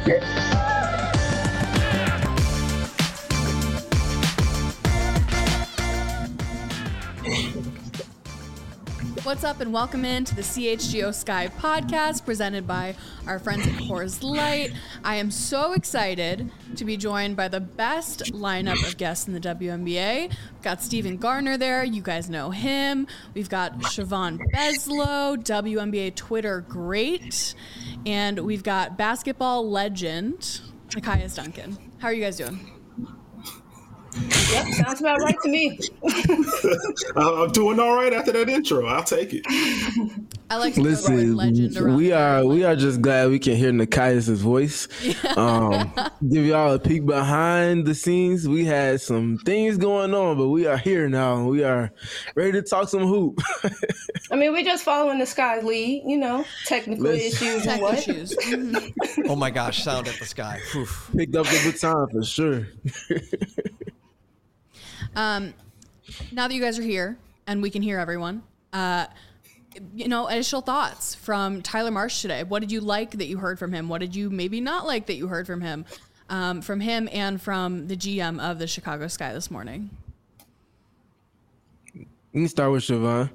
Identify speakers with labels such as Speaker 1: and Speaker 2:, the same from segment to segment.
Speaker 1: What's up, and welcome into the CHGO Sky podcast presented by our friends at Coors Light. I am so excited to be joined by the best lineup of guests in the WNBA. We've got Steven Gardner there. You guys know him. We've got Siobhan Beslow, WNBA Twitter great. And we've got basketball legend, Nekias Duncan. How are you guys doing?
Speaker 2: Yep, sounds about right to me.
Speaker 3: I'm doing all right after that intro. I'll take it.
Speaker 1: I like to listen. Legend around
Speaker 4: we are just glad we can hear Nekias' voice. Yeah. Give y'all a peek behind the scenes. We had some things going on, but we are here now. We are ready to talk some hoop.
Speaker 2: I mean, we're just following the Sky lead, technical issues and what.
Speaker 5: Oh my gosh, sound at the Sky. Oof.
Speaker 4: Picked up the baton for sure.
Speaker 1: Now that you guys are here and we can hear everyone, initial thoughts from Tyler Marsh today. What did you like that you heard from him? What did you maybe not like that you heard from him and from the GM of the Chicago Sky this morning?
Speaker 4: You can start with Siobhan.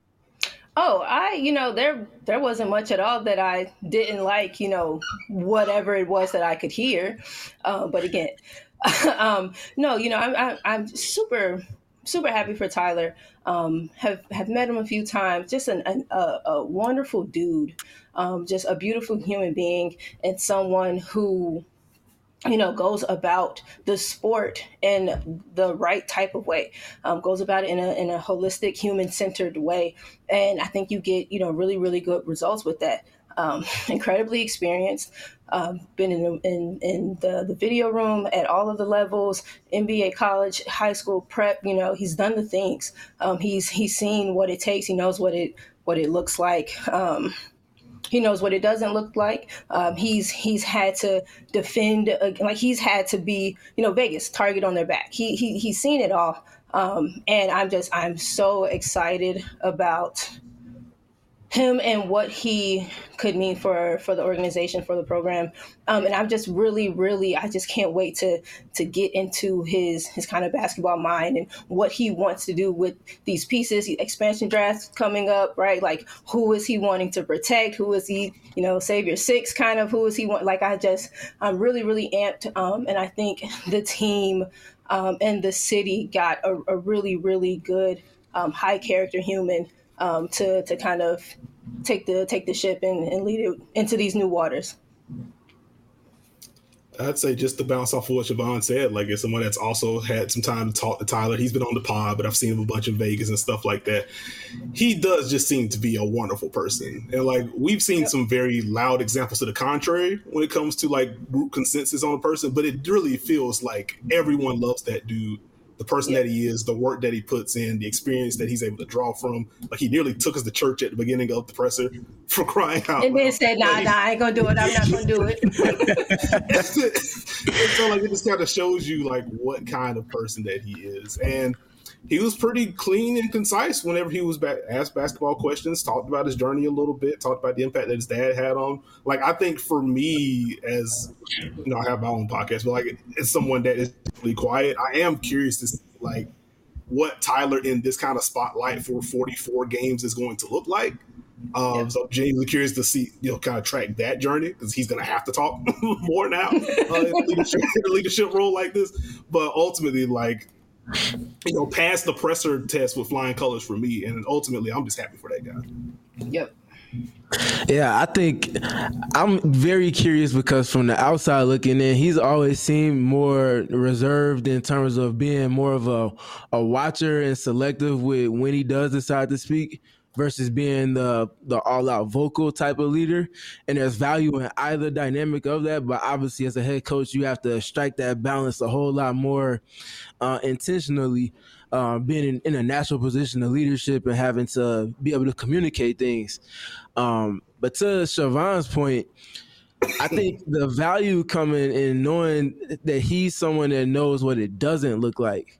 Speaker 2: Oh, there wasn't much at all that I didn't like, whatever it was that I could hear. But again, no, I'm super happy for Tyler. Have met him a few times. Just a wonderful dude. Just a beautiful human being, and someone who, goes about the sport in the right type of way. Goes about it in a holistic, human-centered way, and I think you get really, really good results with that. Incredibly experienced. Been in the video room at all of the levels, NBA, college, high school, prep. He's done the things. He's seen what it takes. He knows what it looks like. He knows what it doesn't look like. He's had to defend, he's had to be, Vegas, target on their back. He's seen it all. And I'm so excited about him and what he could mean for the organization, for the program. And I'm just really, I just can't wait to get into his kind of basketball mind and what he wants to do with these pieces. Expansion drafts coming up, right? Like, who is he wanting to protect? Who is he, Savior 6 kind of, who is he want? I'm really, really amped. And I think the team and the city got a really, really good high character human to kind of take the ship and lead it into these new waters.
Speaker 3: I'd say, just to bounce off of what Siobhan said, as someone that's also had some time to talk to Tyler, he's been on the pod, but I've seen him a bunch in Vegas and stuff like that. He does just seem to be a wonderful person. And we've seen some very loud examples to the contrary when it comes to group consensus on a person, but it really feels like everyone loves that dude. The person that he is, the work that he puts in, the experience that he's able to draw from. He nearly took us to church at the beginning of the presser, for crying out loud.
Speaker 2: And then said, nah, I ain't going to do it. I'm not going to do it.
Speaker 3: So it just kind of shows you what kind of person that he is. And he was pretty clean and concise whenever he was asked basketball questions, talked about his journey a little bit, talked about the impact that his dad had on. I think for me, as I have my own podcast, but as someone that is really quiet, I am curious to see what Tyler in this kind of spotlight for 44 games is going to look like. So I'm genuinely curious to see, kind of track that journey, because he's going to have to talk more now in a leadership role like this. But ultimately, pass the presser test with flying colors for me, and ultimately I'm just happy for that guy.
Speaker 2: Yep.
Speaker 4: Yeah, I think I'm very curious because from the outside looking in, he's always seemed more reserved in terms of being more of a watcher and selective with when he does decide to speak versus being the all-out vocal type of leader. And there's value in either dynamic of that, but obviously as a head coach, you have to strike that balance a whole lot more intentionally, being in a natural position of leadership and having to be able to communicate things. But to Siobhan's point, I think the value coming in knowing that he's someone that knows what it doesn't look like. I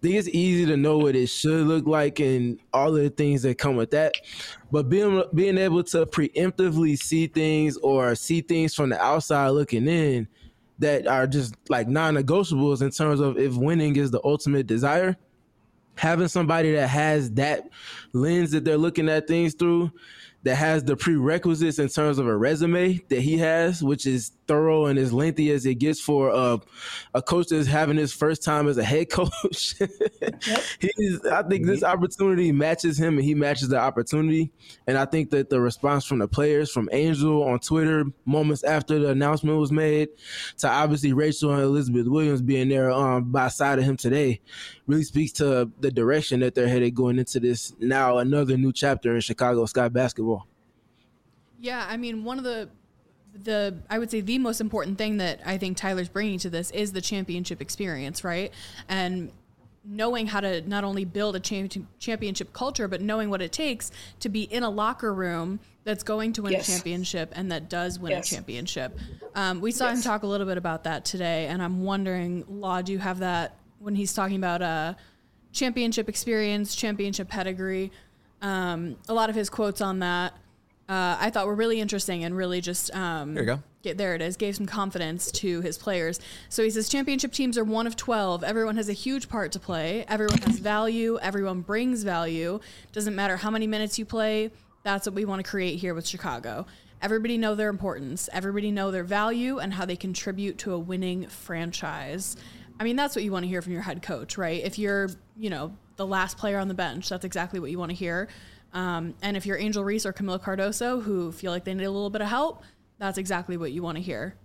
Speaker 4: think it's easy to know what it should look like and all of the things that come with that. But being able to preemptively see things or see things from the outside looking in that are just like non-negotiables in terms of if winning is the ultimate desire, having somebody that has that lens that they're looking at things through, that has the prerequisites in terms of a resume that he has, which is thorough and as lengthy as it gets for a coach that's having his first time as a head coach. I think this opportunity matches him and he matches the opportunity. And I think that the response from the players, from Angel on Twitter moments after the announcement was made, to obviously Rachel and Elizabeth Williams being there by side of him today, really speaks to the direction that they're headed going into this now another new chapter in Chicago Sky basketball.
Speaker 1: Yeah, I mean, one of the I would say the most important thing that I think Tyler's bringing to this is the championship experience, right? And knowing how to not only build a championship culture, but knowing what it takes to be in a locker room that's going to win a championship and that does win a championship. We saw him talk a little bit about that today, and I'm wondering, Law, do you have that when he's talking about championship experience, championship pedigree? A lot of his quotes on that I thought were really interesting and really just
Speaker 5: there you go.
Speaker 1: There it is, gave some confidence to his players. So he says championship teams are one of 12. Everyone has a huge part to play. Everyone has value. Everyone brings value. Doesn't matter how many minutes you play. That's what we want to create here with Chicago. Everybody know their importance. Everybody know their value and how they contribute to a winning franchise. I mean, that's what you want to hear from your head coach, right? If you're, the last player on the bench, that's exactly what you want to hear. And if you're Angel Reese or Camila Cardoso, who feel like they need a little bit of help, that's exactly what you want to hear.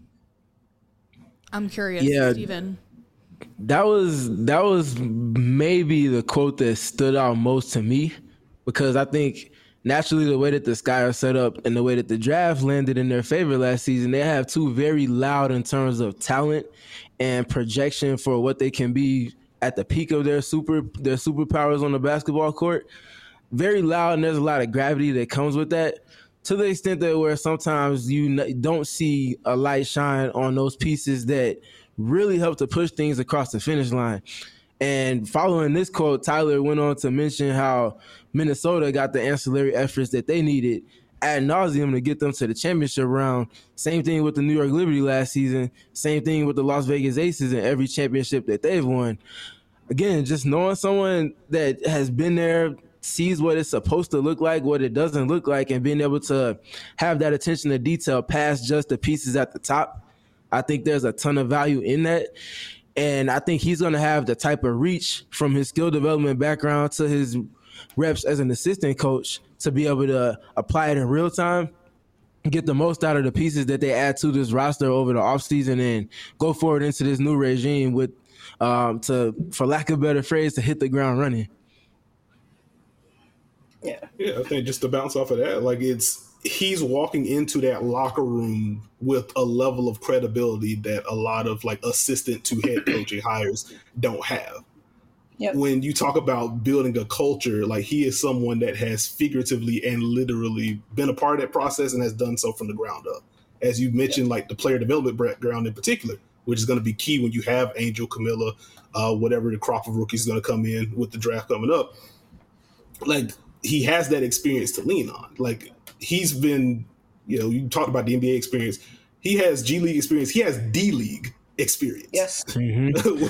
Speaker 1: I'm curious, Steven.
Speaker 4: That was maybe the quote that stood out most to me, because I think naturally the way that the Sky are set up and the way that the draft landed in their favor last season, they have two very loud in terms of talent and projection for what they can be at the peak of their superpowers on the basketball court. Very loud, and there's a lot of gravity that comes with that, to the extent that where sometimes you don't see a light shine on those pieces that really help to push things across the finish line. And following this quote, Tyler went on to mention how Minnesota got the ancillary efforts that they needed ad nauseum to get them to the championship round. Same thing with the New York Liberty last season. Same thing with the Las Vegas Aces in every championship that they've won. Again, just knowing someone that has been there, sees what it's supposed to look like, what it doesn't look like, and being able to have that attention to detail past just the pieces at the top. I think there's a ton of value in that. And I think he's going to have the type of reach from his skill development background to his reps as an assistant coach to be able to apply it in real time, get the most out of the pieces that they add to this roster over the offseason, and go forward into this new regime with, for lack of a better phrase, to hit the ground running.
Speaker 3: Yeah, I think just to bounce off of that, he's walking into that locker room with a level of credibility that a lot of assistant to head coaching hires don't have. Yep. When you talk about building a culture, he is someone that has figuratively and literally been a part of that process and has done so from the ground up. As you mentioned, the player development background in particular, which is going to be key when you have Angel, Camilla, whatever the crop of rookies is going to come in with the draft coming up. He has that experience to lean on. He's been, you talked about the NBA experience. He has G League experience. He has D League experience. Yes.
Speaker 2: Mm-hmm.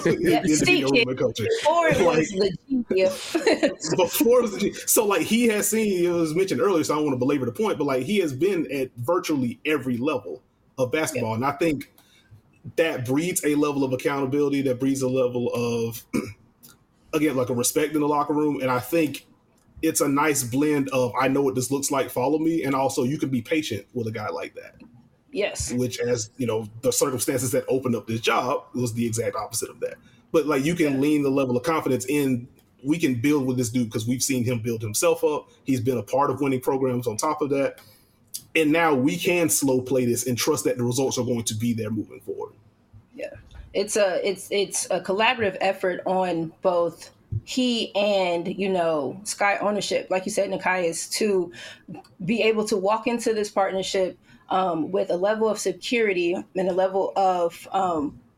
Speaker 2: Before it was the G.
Speaker 3: Before it was the G. So he has seen, it was mentioned earlier, so I don't want to belabor the point, but he has been at virtually every level of basketball. And I think that breeds a level of accountability, that breeds a level of, again, a respect in the locker room. And I think it's a nice blend of, I know what this looks like, follow me. And also you can be patient with a guy like that.
Speaker 2: Yes.
Speaker 3: Which, as the circumstances that opened up this job was the exact opposite of that. But you can lean the level of confidence in, we can build with this dude because we've seen him build himself up. He's been a part of winning programs on top of that. And now we can slow play this and trust that the results are going to be there moving forward.
Speaker 2: Yeah. It's a collaborative effort on both he and, Sky ownership, like you said, Nekias, to be able to walk into this partnership with a level of security and a level of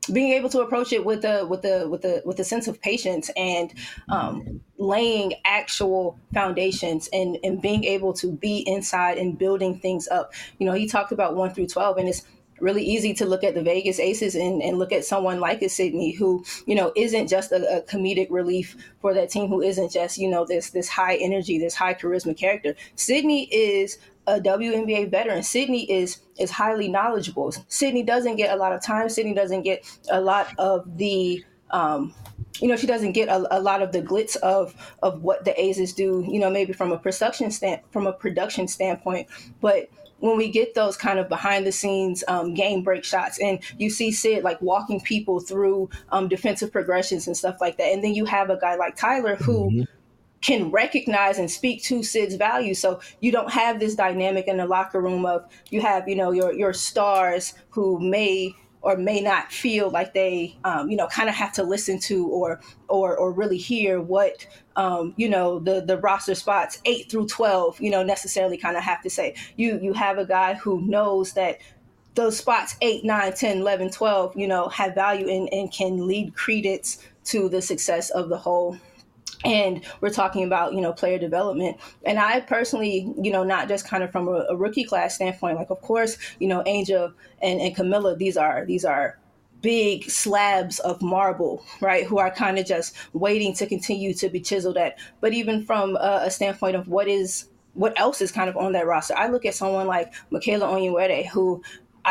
Speaker 2: being able to approach it with a sense of patience and laying actual foundations and being able to be inside and building things up. He talked about 1 through 12, and it's really easy to look at the Vegas Aces and look at someone like a Sydney who, isn't just a comedic relief for that team, who isn't just, this high energy, this high charisma character. Sydney is a WNBA veteran. Sydney is highly knowledgeable. Sydney doesn't get a lot of time. Sydney doesn't get a lot of the she doesn't get a lot of the glitz of what the Aces do, maybe from a production standpoint. But when we get those kind of behind the scenes game break shots, and you see Sid like walking people through defensive progressions and stuff like that. And then you have a guy like Tyler who can recognize and speak to Sid's value. So you don't have this dynamic in the locker room of, you have, your stars who may or may not feel like they, kind of have to listen to or really hear what, the roster spots 8 through 12, necessarily kind of have to say. You have a guy who knows that those spots 8, 9, 10, 11, 12, have value and can lead credence to the success of the whole. And we're talking about, player development. And I personally, not just kind of from a rookie class standpoint, like, of course, Angel and Camilla, these are big slabs of marble, right, who are kind of just waiting to continue to be chiseled at. But even from a standpoint of what else is kind of on that roster, I look at someone like Michaela Onyenwere, who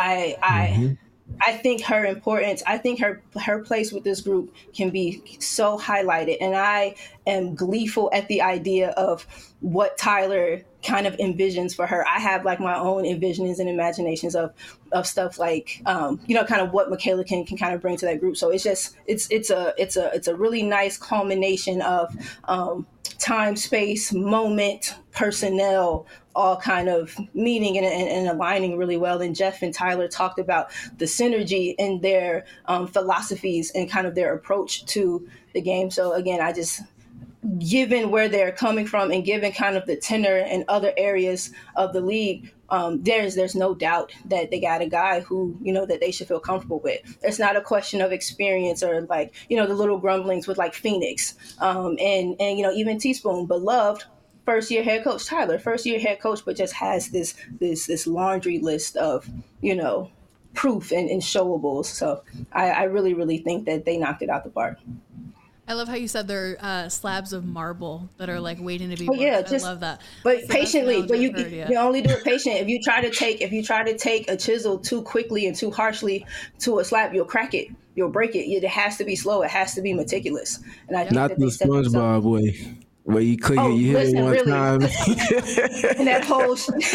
Speaker 2: I think her importance, I think her place with this group can be so highlighted. And I am gleeful at the idea of what Tyler kind of envisions for her. I have like my own envisionings and imaginations of stuff like, kind of what Michaela can kind of bring to that group. So it's just, it's a really nice culmination of time, space, moment, personnel, all kind of meeting and aligning really well. And Jeff and Tyler talked about the synergy in their philosophies and kind of their approach to the game. So again, given where they're coming from and given kind of the tenor and other areas of the league, there's no doubt that they got a guy who, that they should feel comfortable with. It's not a question of experience or like, the little grumblings with like Phoenix and even Teaspoon, beloved first-year head coach Tyler, first-year head coach, but just has this laundry list of, proof and showables. So I really, really think that they knocked it out the park.
Speaker 1: I love how you said they're slabs of marble that are like waiting to be.
Speaker 2: Oh yeah,
Speaker 1: I love that.
Speaker 2: But patiently, but you only do it patient. If you try to take a chisel too quickly and too harshly to a slab, you'll crack it. You'll break it. It has to be slow. It has to be meticulous. And I think
Speaker 4: not the SpongeBob way, where you click it, you hit it one time,
Speaker 2: and that whole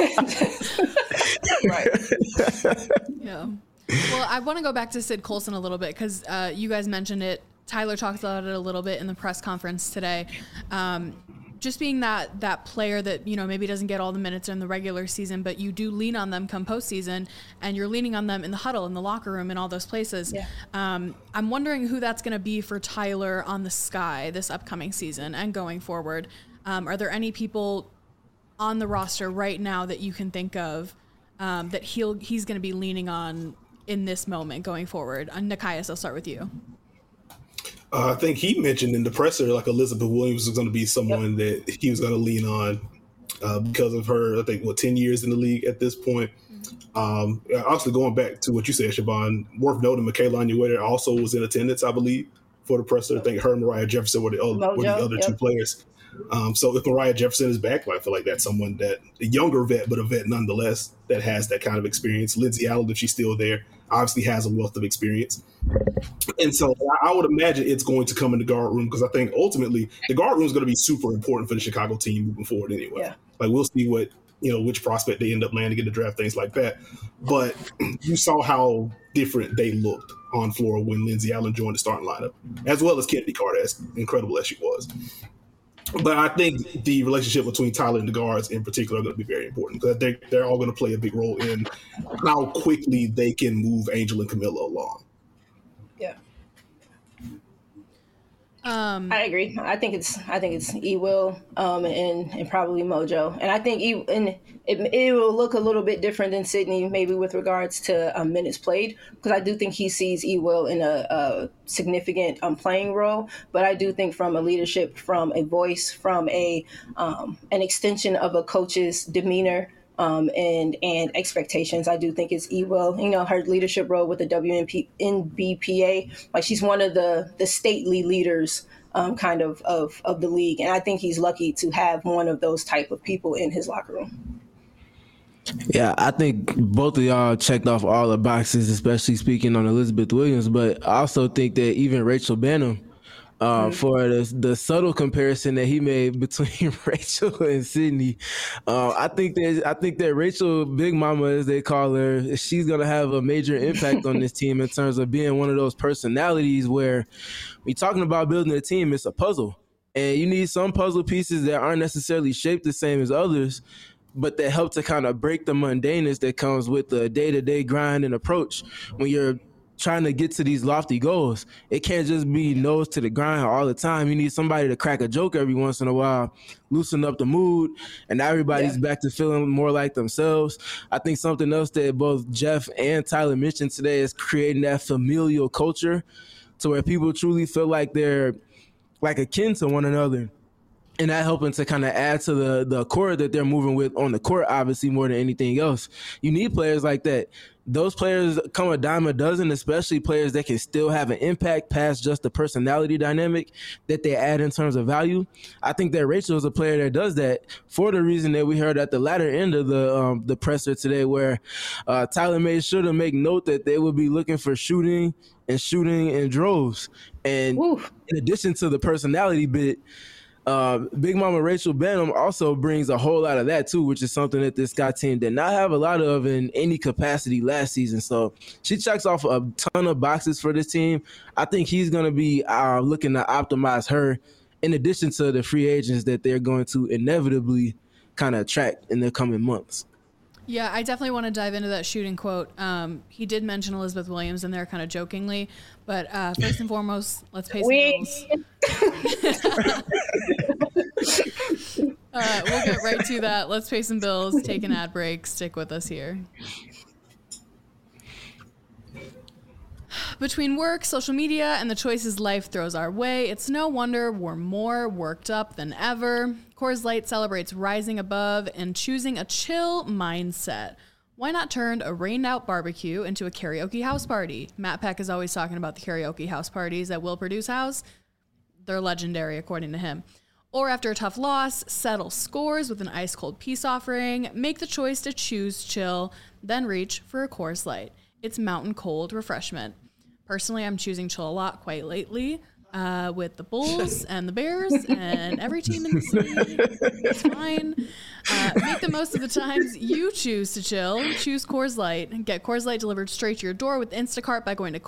Speaker 2: right.
Speaker 1: Yeah. Well, I want to go back to Sid Colson a little bit because you guys mentioned it. Tyler talked about it a little bit in the press conference today. Just being that player that, maybe doesn't get all the minutes in the regular season, but you do lean on them come postseason, and you're leaning on them in the huddle, in the locker room, in all those places. Yeah. I'm wondering who that's going to be for Tyler on the Sky this upcoming season and going forward. Are there any people on the roster right now that you can think of that he's going to be leaning on in this moment going forward? Nekias, I'll start with you.
Speaker 3: I think he mentioned in the presser, like Elizabeth Williams was going to be someone that he was going to lean on because of her, I think, 10 years in the league at this point. Obviously, going back to what you said, Siobhan, worth noting, Michaela Onyenwere also was in attendance, I believe, for the presser. I think her and Mariah Jefferson were the other two players. So if Mariah Jefferson is back, I feel like that's someone that a younger vet, but a vet nonetheless, that has that kind of experience. Lindsay Allen, if she's still there, obviously has a wealth of experience. And so I would imagine it's going to come in the guard room because I think ultimately the guard room is going to be super important for the Chicago team moving forward anyway. Yeah. Like we'll see what, which prospect they end up landing in the draft, things like that. But you saw how different they looked on floor when Lindsay Allen joined the starting lineup, as well as Kennedy Carter, as incredible as she was. But I think the relationship between Tyler and the guards in particular are going to be very important because they're all going to play a big role in how quickly they can move Angel and Camilla along.
Speaker 2: Yeah. I agree. I think it's E Will and probably Mojo, and I think it will look a little bit different than Sydney, maybe with regards to minutes played, because I do think he sees E Will in a significant playing role, but I do think from a leadership, from a voice, from an extension of a coach's demeanor. And expectations, I do think it's E Will. Her leadership role with the NBPA, like she's one of the stately leaders kind of the league. And I think he's lucky to have one of those type of people in his locker room.
Speaker 4: Yeah, I think both of y'all checked off all the boxes, especially speaking on Elizabeth Williams. But I also think that even Rachel Banham, for the subtle comparison that he made between Rachel and Sydney, I think that Rachel, Big Mama as they call her, she's gonna have a major impact on this team in terms of being one of those personalities where we're talking about building a team. It's a puzzle, and you need some puzzle pieces that aren't necessarily shaped the same as others, but that help to kind of break the mundaneness that comes with the day-to-day grind and approach when you're trying to get to these lofty goals. It can't just be nose to the grind all the time. You need somebody to crack a joke every once in a while, loosen up the mood, and everybody's back to feeling more like themselves. I think something else that both Jeff and Tyler mentioned today is creating that familial culture to where people truly feel like they're like akin to one another. And that helping to kind of add to the core that they're moving with on the court, obviously, more than anything else. You need players like that. Those players come a dime a dozen, especially players that can still have an impact past just the personality dynamic that they add in terms of value. I think that Rachel is a player that does that for the reason that we heard at the latter end of the presser today, where Tyler made sure to make note that they would be looking for shooting in droves. And in addition to the personality bit, Big Mama Rachel Banham also brings a whole lot of that too, which is something that this Sky team did not have a lot of in any capacity last season. So she checks off a ton of boxes for this team. I think he's going to be looking to optimize her in addition to the free agents that they're going to inevitably kind of attract in the coming months.
Speaker 1: Yeah, I definitely want to dive into that shooting quote. He did mention Elizabeth Williams in there kind of jokingly, but first and foremost, let's pay some bills. We'll get right to that. Let's pay some bills, take an ad break, stick with us here. Between work, social media, and the choices life throws our way, it's no wonder we're more worked up than ever. Coors Light celebrates rising above and choosing a chill mindset. Why not turn a rained-out barbecue into a karaoke house party? Matt Peck is always talking about the karaoke house parties at Will Purdue's house. They're legendary, according to him. Or after a tough loss, settle scores with an ice-cold peace offering. Make the choice to choose chill, then reach for a Coors Light. It's mountain cold refreshment. Personally, I'm choosing chill a lot quite lately with the Bulls and the Bears and every team in the city. It's fine. Make the most of the times you choose to chill. Choose Coors Light. Get Coors Light delivered straight to your door with Instacart by going to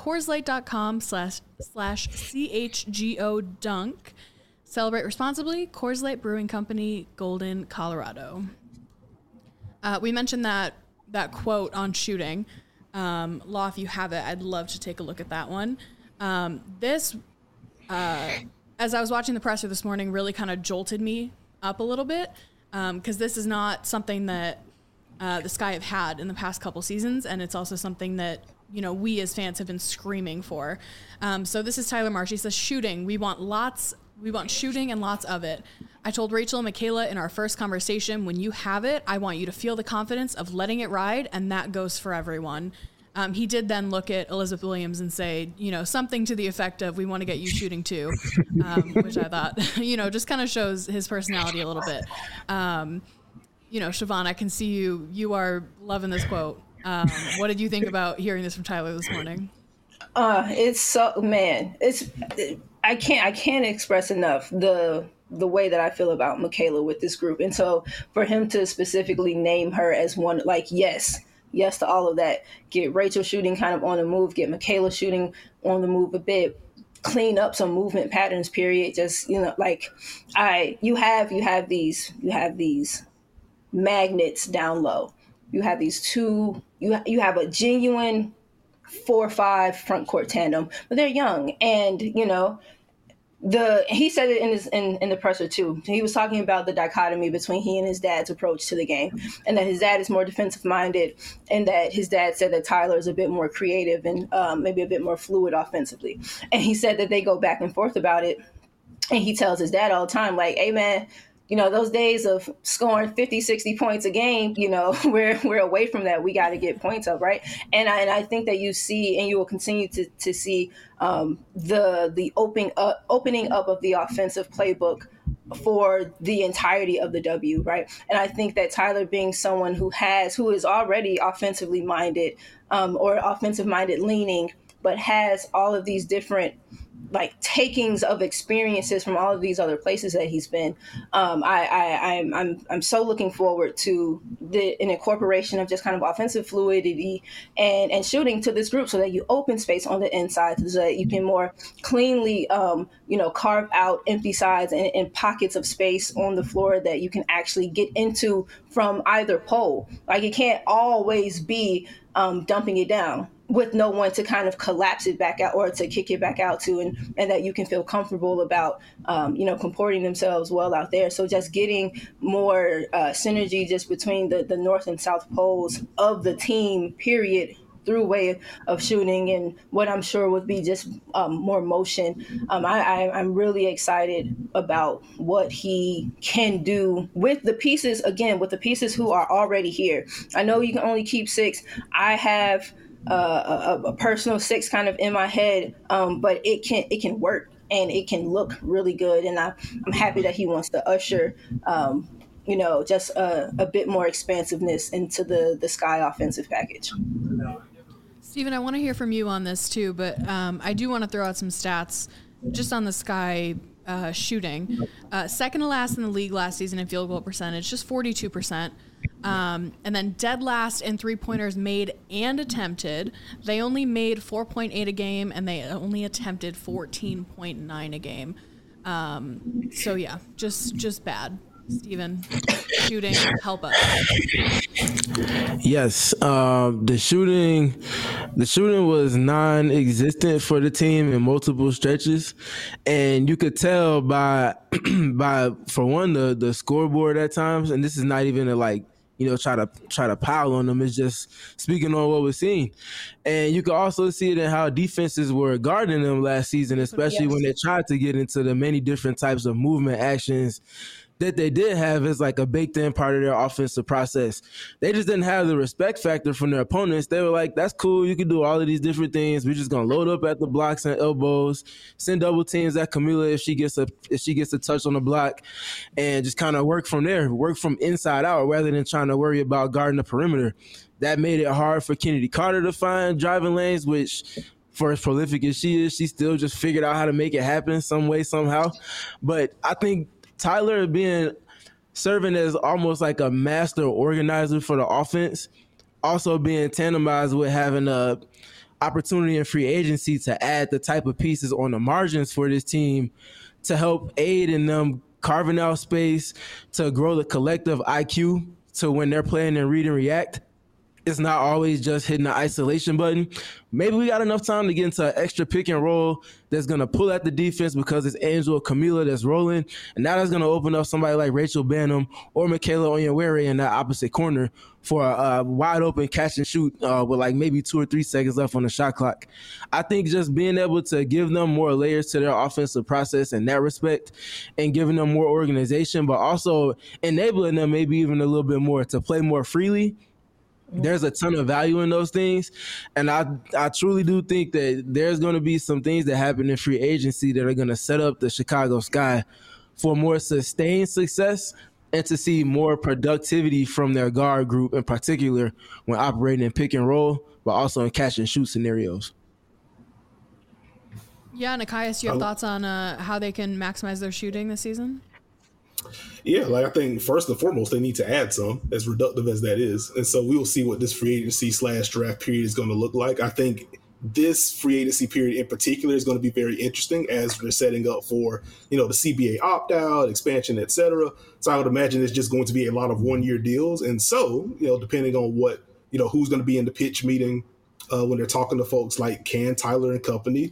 Speaker 1: CoorsLight.com/CHGO Dunk. Celebrate responsibly. Coors Light Brewing Company, Golden, Colorado. We mentioned that quote on shooting. Law, if you have it, I'd love to take a look at that one. As I was watching the presser this morning, really kind of jolted me up a little bit because this is not something that the Sky have had in the past couple seasons, and it's also something that we as fans have been screaming for. So this is Tyler Marsh. He says, "Shooting. We want shooting and lots of it. I told Rachel and Michaela in our first conversation, when you have it, I want you to feel the confidence of letting it ride, and that goes for everyone." He did then look at Elizabeth Williams and say, something to the effect of, "We want to get you shooting too," which I thought, just kind of shows his personality a little bit. Siobhan, I can see you are loving this quote. What did you think about hearing this from Tyler this morning?
Speaker 2: It's so, man, I can't express enough the way that I feel about Michaela with this group. And so for him to specifically name her as one, like, yes to all of that, get Rachel shooting kind of on the move, get Michaela shooting on the move a bit, clean up some movement patterns, period. Just, you have these magnets down low. You have these two, you have a genuine 4-5 front court tandem, but they're young. And, he said it in the presser too. He was talking about the dichotomy between he and his dad's approach to the game, and that his dad is more defensive minded, and that his dad said that Tyler is a bit more creative and maybe a bit more fluid offensively. And he said that they go back and forth about it, and he tells his dad all the time, like, "Hey man, you know, those days of scoring 50, 60 points a game, you know, we're away from that. We got to get points up, right?" And I think that you see, and you will continue to see the opening up of the offensive playbook for the entirety of the W, right? And I think that Tyler, being someone who is already offensively minded or offensive minded leaning, but has all of these different like takings of experiences from all of these other places that he's been. I'm so looking forward to an incorporation of just kind of offensive fluidity and shooting to this group, so that you open space on the inside, so that you can more cleanly, carve out empty sides and pockets of space on the floor that you can actually get into from either pole. Like, it can't always be dumping it down with no one to kind of collapse it back out or to kick it back out to, and that you can feel comfortable about, comporting themselves well out there. So just getting more synergy just between the north and south poles of the team, period, through way of shooting, and what I'm sure would be just more motion. I'm really excited about what he can do with the pieces, who are already here. I know you can only keep 6. I have a personal 6 kind of in my head, but it can work and it can look really good. And I'm happy that he wants to usher, just a bit more expansiveness into the Sky offensive package.
Speaker 1: Steven, I want to hear from you on this too, but I do want to throw out some stats just on the Sky shooting. Second to last in the league last season in field goal percentage, just 42%. And then dead last in three-pointers made and attempted. They only made 4.8 a game, and they only attempted 14.9 a game. So yeah, just bad. Steven, shooting, help us.
Speaker 4: Yes, the shooting was non-existent for the team in multiple stretches, and you could tell by for one the scoreboard at times, and this is not even try to pile on them. It's just speaking on what we're seeing, and you can also see it in how defenses were guarding them last season, especially when they tried to get into the many different types of movement actions that they did have as like a baked-in part of their offensive process. They just didn't have the respect factor from their opponents. They were like, that's cool, you can do all of these different things. We're just going to load up at the blocks and elbows, send double teams at Camila if she gets a touch on the block, and just kind of work from there, work from inside out rather than trying to worry about guarding the perimeter. That made it hard for Kennedy Carter to find driving lanes, which for as prolific as she is, she still just figured out how to make it happen some way, somehow. But I think Tyler serving as almost like a master organizer for the offense, also being tandemized with having a opportunity in free agency to add the type of pieces on the margins for this team to help aid in them carving out space, to grow the collective IQ to when they're playing and read and react. It's not always just hitting the isolation button. Maybe we got enough time to get into an extra pick and roll that's going to pull at the defense because it's Angel or Camila that's rolling. And now that's going to open up somebody like Rachel Banham or Michaela Onyewere in that opposite corner for a wide open catch and shoot with like maybe 2 or 3 seconds left on the shot clock. I think just being able to give them more layers to their offensive process in that respect, and giving them more organization, but also enabling them maybe even a little bit more to play more freely. There's a ton of value in those things, and I truly do think that there's going to be some things that happen in free agency that are going to set up the Chicago Sky for more sustained success and to see more productivity from their guard group in particular when operating in pick and roll, but also in catch and shoot scenarios.
Speaker 1: Yeah, Nekias, you have thoughts on how they can maximize their shooting this season?
Speaker 3: Yeah, I think first and foremost, they need to add some, as reductive as that is. And so we will see what this free agency / draft period is going to look like. I think this free agency period in particular is going to be very interesting as we're setting up for, the CBA opt-out, expansion, et cetera. So I would imagine it's just going to be a lot of one-year deals. And so, depending on what, who's going to be in the pitch meeting when they're talking to folks like can Tyler and company,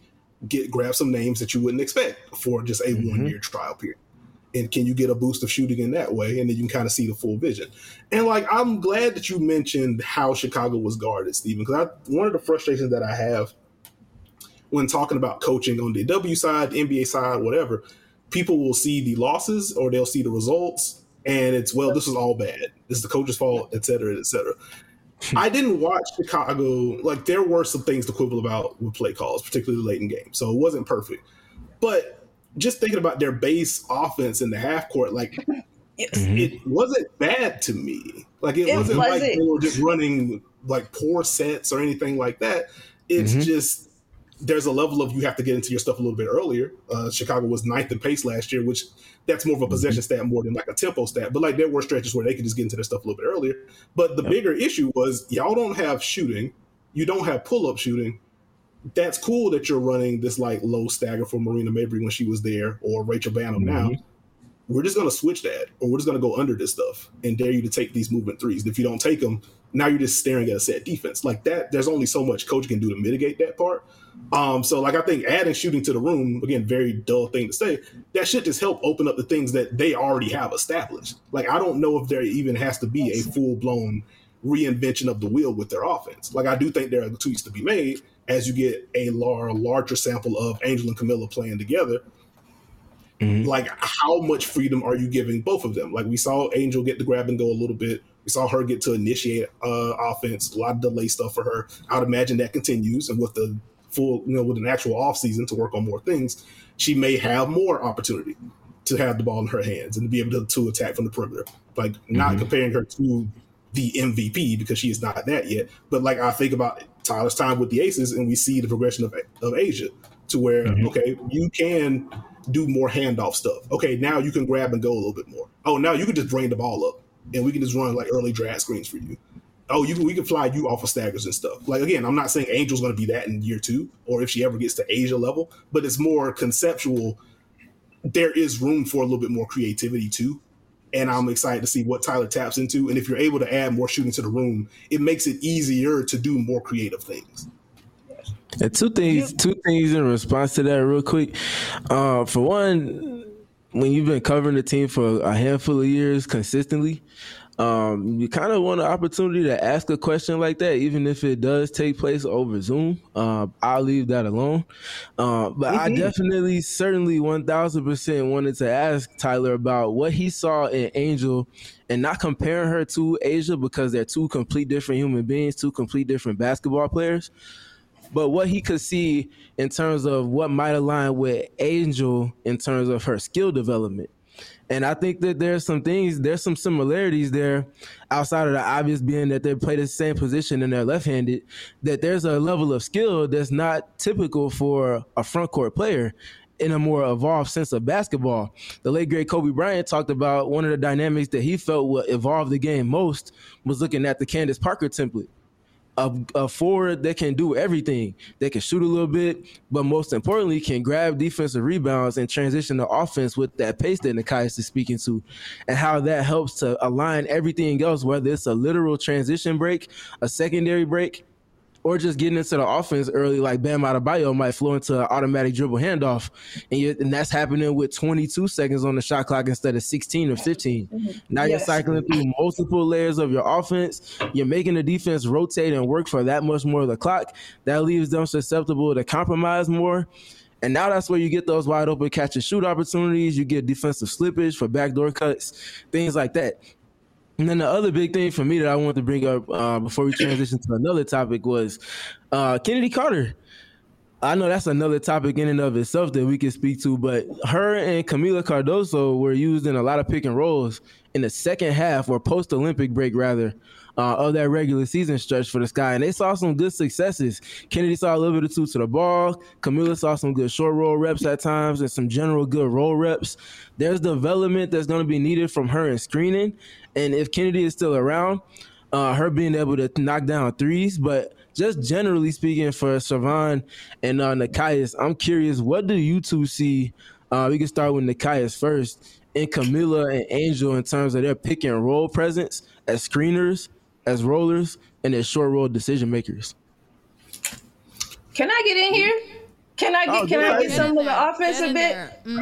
Speaker 3: grab some names that you wouldn't expect for just a 1 year trial period? And can you get a boost of shooting in that way? And then you can kind of see the full vision. And like, I'm glad that you mentioned how Chicago was guarded, Stephen, because one of the frustrations that I have when talking about coaching on the W side, the NBA side, whatever, people will see the losses or they'll see the results and it's, well, this is all bad. This is the coach's fault, et cetera, et cetera. I didn't watch Chicago. Like, there were some things to quibble about with play calls, particularly late in games. So it wasn't perfect. But just thinking about their base offense in the half court, like, it wasn't bad to me. Like, it wasn't like they were just running like poor sets or anything like that. It's just, there's a level of, you have to get into your stuff a little bit earlier. Chicago was 9th in pace last year, which that's more of a possession stat more than like a tempo stat. But like, there were stretches where they could just get into their stuff a little bit earlier. But the bigger issue was, y'all don't have shooting. You don't have pull-up shooting. That's cool that you're running this like low stagger for Marina Mabrey when she was there, or Rachel Banham now. We're just going to switch that, or we're just going to go under this stuff and dare you to take these movement threes. If you don't take them, now you're just staring at a set defense. Like that, there's only so much coach can do to mitigate that part. So like, I think adding shooting to the room, again, very dull thing to say, that should just help open up the things that they already have established. Like, I don't know if there even has to be a full-blown reinvention of the wheel with their offense. Like, I do think there are tweaks to be made as you get a larger sample of Angel and Camilla playing together. Like, how much freedom are you giving both of them? Like, we saw Angel get to grab and go a little bit. We saw her get to initiate offense, a lot of delay stuff for her. I would imagine that continues. And with the full, with an actual offseason to work on more things, she may have more opportunity to have the ball in her hands and to be able to attack from the perimeter. Like, not comparing her to the MVP, because she is not that yet. But like, I think about Tyler's time with the Aces, and we see the progression of Asia to where, okay, you can do more handoff stuff. Okay, now you can grab and go a little bit more. Oh, now you can just bring the ball up and we can just run like early drag screens for you. Oh, we can fly you off of staggers and stuff. Like, again, I'm not saying Angel's going to be that in year 2 or if she ever gets to Asia level, but it's more conceptual. There is room for a little bit more creativity too. And I'm excited to see what Tyler taps into. And if you're able to add more shooting to the room, it makes it easier to do more creative things.
Speaker 4: And two things in response to that real quick. For one, when you've been covering the team for a handful of years consistently, you kind of want an opportunity to ask a question like that, even if it does take place over Zoom. I'll leave that alone. But I definitely, certainly 1000% wanted to ask Tyler about what he saw in Angel, and not comparing her to Asia because they're two complete different human beings, two complete different basketball players. But what he could see in terms of what might align with Angel in terms of her skill development. And I think that there's some similarities there outside of the obvious being that they play the same position and they're left-handed, that there's a level of skill that's not typical for a front court player in a more evolved sense of basketball. The late, great Kobe Bryant talked about one of the dynamics that he felt would evolve the game most was looking at the Candace Parker template. A forward that can do everything. They can shoot a little bit, but most importantly, can grab defensive rebounds and transition to offense with that pace that Nekias is speaking to, and how that helps to align everything else, whether it's a literal transition break, a secondary break, or just getting into the offense early, like Bam Adebayo might flow into an automatic dribble handoff. And that's happening with 22 seconds on the shot clock instead of 16 or 15. Now you're cycling through multiple layers of your offense. You're making the defense rotate and work for that much more of the clock. That leaves them susceptible to compromise more. And now that's where you get those wide open catch and shoot opportunities. You get defensive slippage for backdoor cuts, things like that. And then the other big thing for me that I wanted to bring up before we transition to another topic was Kennedy Carter. I know that's another topic in and of itself that we can speak to, but her and Camila Cardoso were used in a lot of pick and rolls in the second half, or post-Olympic break rather, of that regular season stretch for the Sky. And they saw some good successes. Kennedy saw a little bit of two to the ball. Camila saw some good short roll reps at times and some general good roll reps. There's development that's going to be needed from her in screening. And if Kennedy is still around, her being able to knock down threes. But just generally speaking for Servon and Nekias, I'm curious, what do you two see? We can start with Nekias first, in Camila and Angel in terms of their pick and roll presence as screeners, as rollers, and as short roll decision makers.
Speaker 2: Can I get in here? Can I get some of the offense a bit?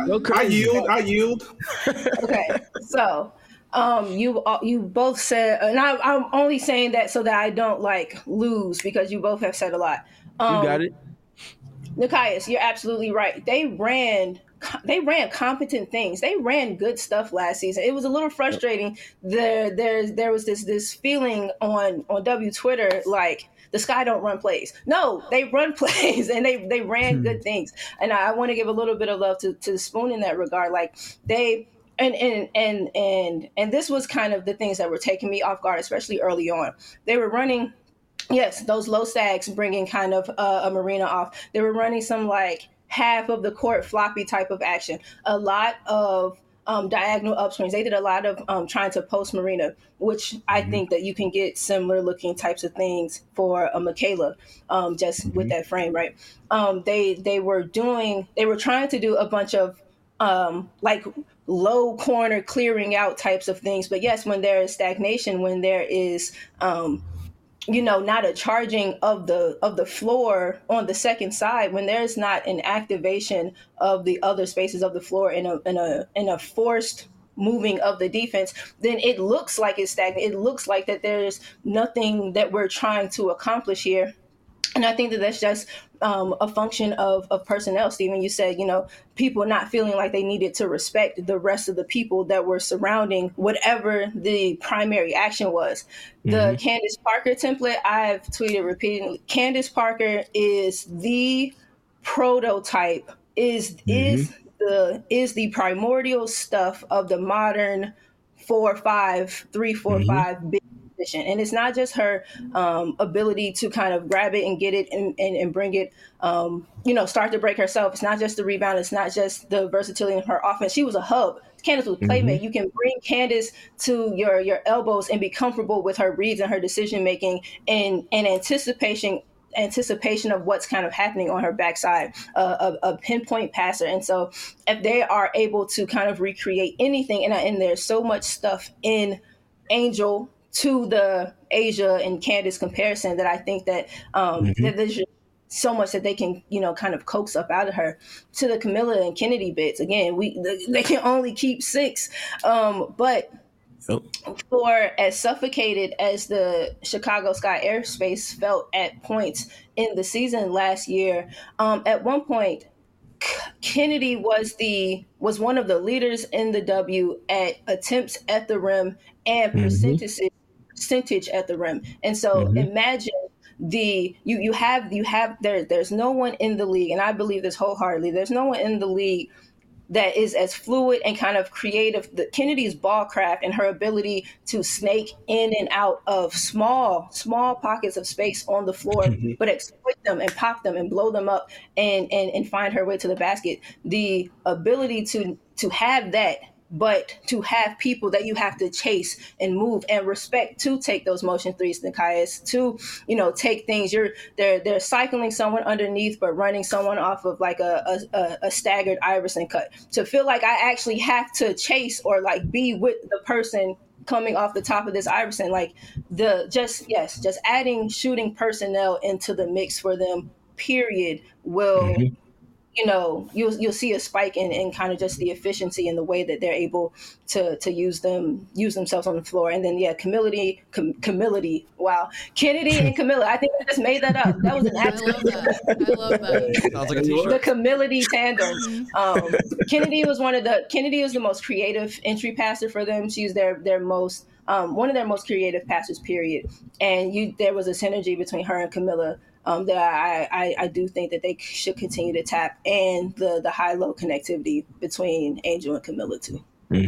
Speaker 3: I yield.
Speaker 2: Okay, so you both said, and I'm only saying that so that I don't like lose because you both have said a lot.
Speaker 4: You got it.
Speaker 2: Nekias, you're absolutely right. They ran competent things. They ran good stuff last season. It was a little frustrating. There was this feeling on W Twitter like the Sky don't run plays. No, they run plays and they ran good things. And I want to give a little bit of love to Spoon in that regard. Like they and this was kind of the things that were taking me off guard, especially early on. They were running, yes, those low stacks, bringing kind of a Marina off. They were running some like half of the court floppy type of action. A lot of diagonal upswings. They did a lot of trying to post Marina, which I think that you can get similar looking types of things for a Michaela, just with that frame, right? They were trying to do a bunch of like low corner clearing out types of things. But yes, when there is stagnation, when there is not a charging of the floor on the second side, when there's not an activation of the other spaces of the floor in a forced moving of the defense, then it looks like it's stagnant. It looks like that there's nothing that we're trying to accomplish here. And I think that that's just a function of personnel. Stephen, you said, people not feeling like they needed to respect the rest of the people that were surrounding whatever the primary action was. The Candace Parker template, I've tweeted repeatedly. Candace Parker is the prototype, is the primordial stuff of the modern 4-5, 3-4-5 big. And it's not just her ability to kind of grab it and get it and bring it, start to break herself. It's not just the rebound. It's not just the versatility in her offense. She was a hub. Candace was playmate. You can bring Candace to your elbows and be comfortable with her reads and her decision making and anticipation of what's kind of happening on her backside, a pinpoint passer. And so if they are able to kind of recreate anything, and there's so much stuff in Angel to the Asia and Candace comparison that I think that there's so much that they can, kind of coax up out of her. To the Camilla and Kennedy bits, again, they can only keep 6. But for as suffocated as the Chicago Sky airspace felt at points in the season last year, at one point, Kennedy was one of the leaders in the W at attempts at the rim and percentage at the rim. And so imagine there's no one in the league, and I believe this wholeheartedly, there's no one in the league that is as fluid and kind of creative. Kennedy's ball craft and her ability to snake in and out of small pockets of space on the floor, but exploit them and pop them and blow them up and find her way to the basket. The ability to have that, but to have people that you have to chase and move and respect to take those motion threes, Nekias, to, take things. They're cycling someone underneath, but running someone off of like a staggered Iverson cut. To feel like I actually have to chase or like be with the person coming off the top of this Iverson, like just adding shooting personnel into the mix for them, period, will you'll see a spike in kind of just the efficiency and the way that they're able to use themselves on the floor. And then Camillity, wow, Kennedy and Camilla. I think I just made that up. That was an accident.
Speaker 1: I love that.
Speaker 5: Sounds like a t-shirt.
Speaker 2: The Camillity tandem. Kennedy was the most creative entry passer for them. She's their most one of their most creative passers, period. And there was a synergy between her and Camilla that I do think that they should continue to tap, and the high-low connectivity between Angel and Camilla too.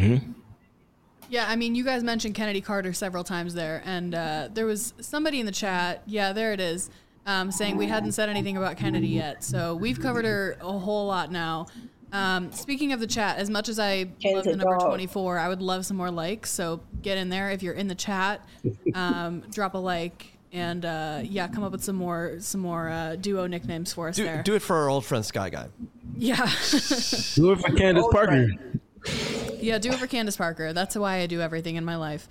Speaker 1: Yeah, I mean, you guys mentioned Kennedy Carter several times there, and there was somebody in the chat, yeah, there it is, saying we hadn't said anything about Kennedy yet, so we've covered her a whole lot now. Speaking of the chat, as much as I love the number 24, I would love some more likes, so get in there. If you're in the chat, drop a like. And come up with some more duo nicknames for us there.
Speaker 5: Do it for our old friend Sky Guy.
Speaker 1: Yeah.
Speaker 4: Do it for Candace Parker.
Speaker 1: Yeah, do it for Candace Parker. That's why I do everything in my life.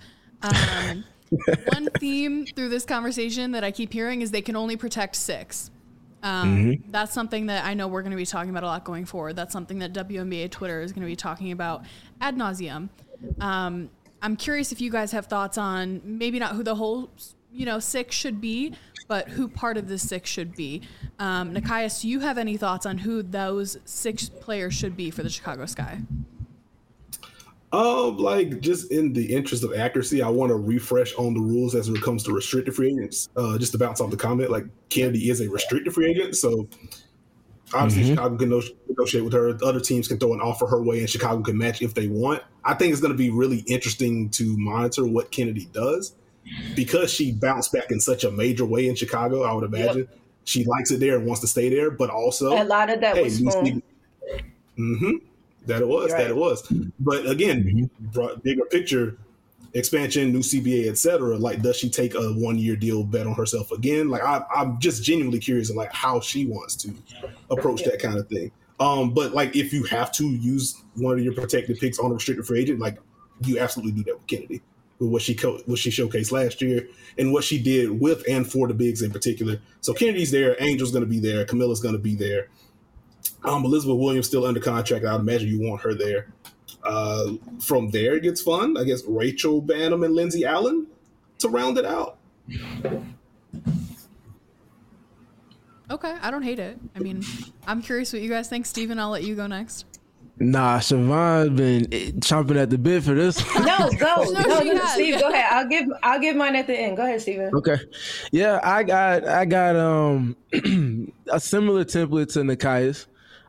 Speaker 1: One theme through this conversation that I keep hearing is they can only protect 6. That's something that I know we're going to be talking about a lot going forward. That's something that WNBA Twitter is going to be talking about ad nauseum. I'm curious if you guys have thoughts on maybe not who the whole, six should be, but who part of the six should be. Nekias, do you have any thoughts on who those 6 players should be for the Chicago Sky?
Speaker 3: Just in the interest of accuracy, I want to refresh on the rules as it comes to restricted free agents. Just to bounce off the comment, like Kennedy is a restricted free agent, so obviously Chicago can negotiate with her. Other teams can throw an offer her way, and Chicago can match if they want. I think it's going to be really interesting to monitor what Kennedy does because she bounced back in such a major way in Chicago. I would imagine she likes it there and wants to stay there, but also
Speaker 2: a lot of that was fun.
Speaker 3: That it was. But again, bigger picture, expansion, new CBA, etc. Like, does she take a 1-year deal, bet on herself again? Like, I'm just genuinely curious of like how she wants to approach that kind of thing. But like, if you have to use one of your protected picks on a restricted free agent, like you absolutely do that with Kennedy, with what she showcased last year and what she did with and for the bigs in particular. So Kennedy's there, Angel's going to be there, Camilla's going to be there. Elizabeth Williams still under contract. I would imagine you want her there. From there, it gets fun. I guess Rachel Banham and Lindsay Allen to round it out.
Speaker 1: Okay, I don't hate it. I mean, I'm curious what you guys think. Steven, I'll let you go next.
Speaker 4: Nah, Siobhan's been chomping at the bit for this.
Speaker 2: No, Steve, go ahead. I'll give mine at the end. Go ahead, Steven.
Speaker 4: Okay. Yeah, I got a similar template to Nekias.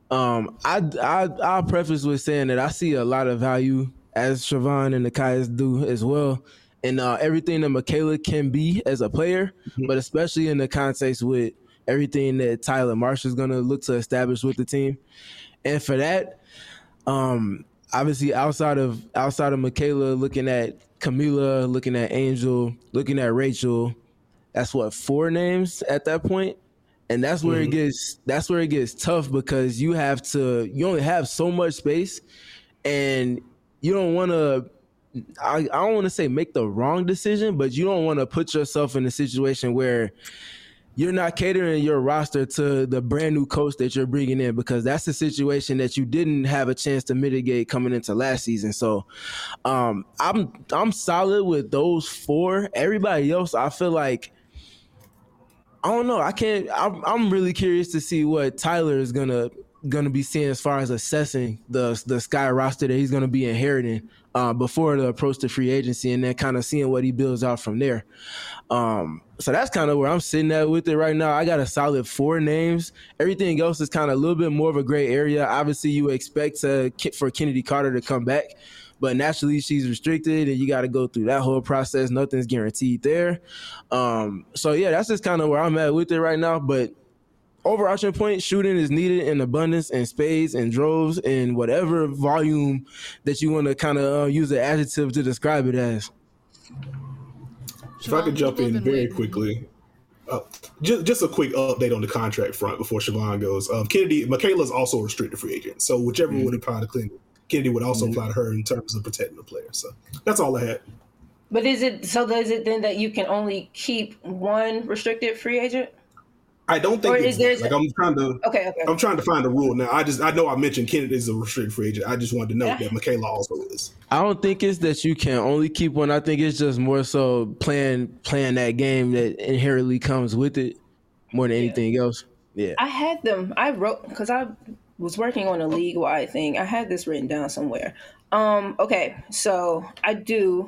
Speaker 4: I'll preface with saying that I see a lot of value, as Siobhan and Nekias do as well, in everything that Michaela can be as a player, but especially in the context with everything that Tyler Marsh is going to look to establish with the team. And for that, obviously outside of Michaela, looking at Camila, looking at Angel, looking at Rachel, that's 4 names at that point. And that's where it gets tough because you only have so much space, and you don't want to, I don't want to say make the wrong decision, but you don't want to put yourself in a situation where you're not catering your roster to the brand new coach that you're bringing in, because that's a situation that you didn't have a chance to mitigate coming into last season. So I'm solid with those 4. Everybody else, I feel like, I don't know. I'm really curious to see what Tyler is gonna be seeing as far as assessing the Sky roster that he's gonna be inheriting before the approach to free agency, and then kind of seeing what he builds out from there. So that's kind of where I'm sitting at with it right now. I got a solid 4 names. Everything else is kind of a little bit more of a gray area. Obviously, you expect for Kennedy Carter to come back, but naturally she's restricted and you got to go through that whole process. Nothing's guaranteed there. So yeah, that's just kind of where I'm at with it right now. But overarching point, shooting is needed in abundance and spades and droves and whatever volume that you want to kind of use an adjective to describe it as.
Speaker 3: If I could jump in very quickly. Just a quick update on the contract front before Siobhan goes. Michaela's also a restricted free agent. So whichever would apply to Kennedy would also apply to her in terms of protecting the player. So that's all I had.
Speaker 2: But is it then that you can only keep one restricted free agent?
Speaker 3: I don't think it's like I'm trying to.
Speaker 2: Okay.
Speaker 3: I'm trying to find a rule now. I know I mentioned Kennedy is a restricted free agent. I just wanted to note that Michaela also is.
Speaker 4: I don't think it's that you can only keep one. I think it's just more so playing that game that inherently comes with it more than anything else. Yeah.
Speaker 2: I had them. I wrote because I was working on a league-wide thing. I had this written down somewhere. Okay, so I do.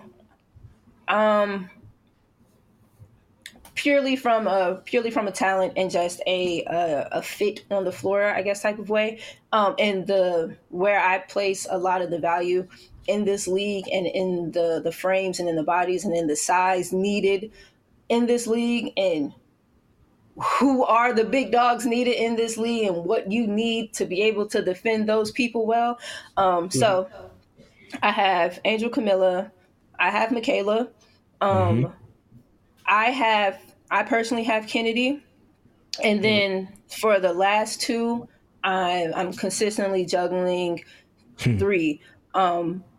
Speaker 2: Purely from a talent and just a fit on the floor, I guess, type of way. And where I place a lot of the value in this league and in the frames and in the bodies and in the size needed in this league and who are the big dogs needed in this league and what you need to be able to defend those people well. So I have Angel Camilla. I have Michaela. I personally have Kennedy. And then for the last 2, I'm consistently juggling 3.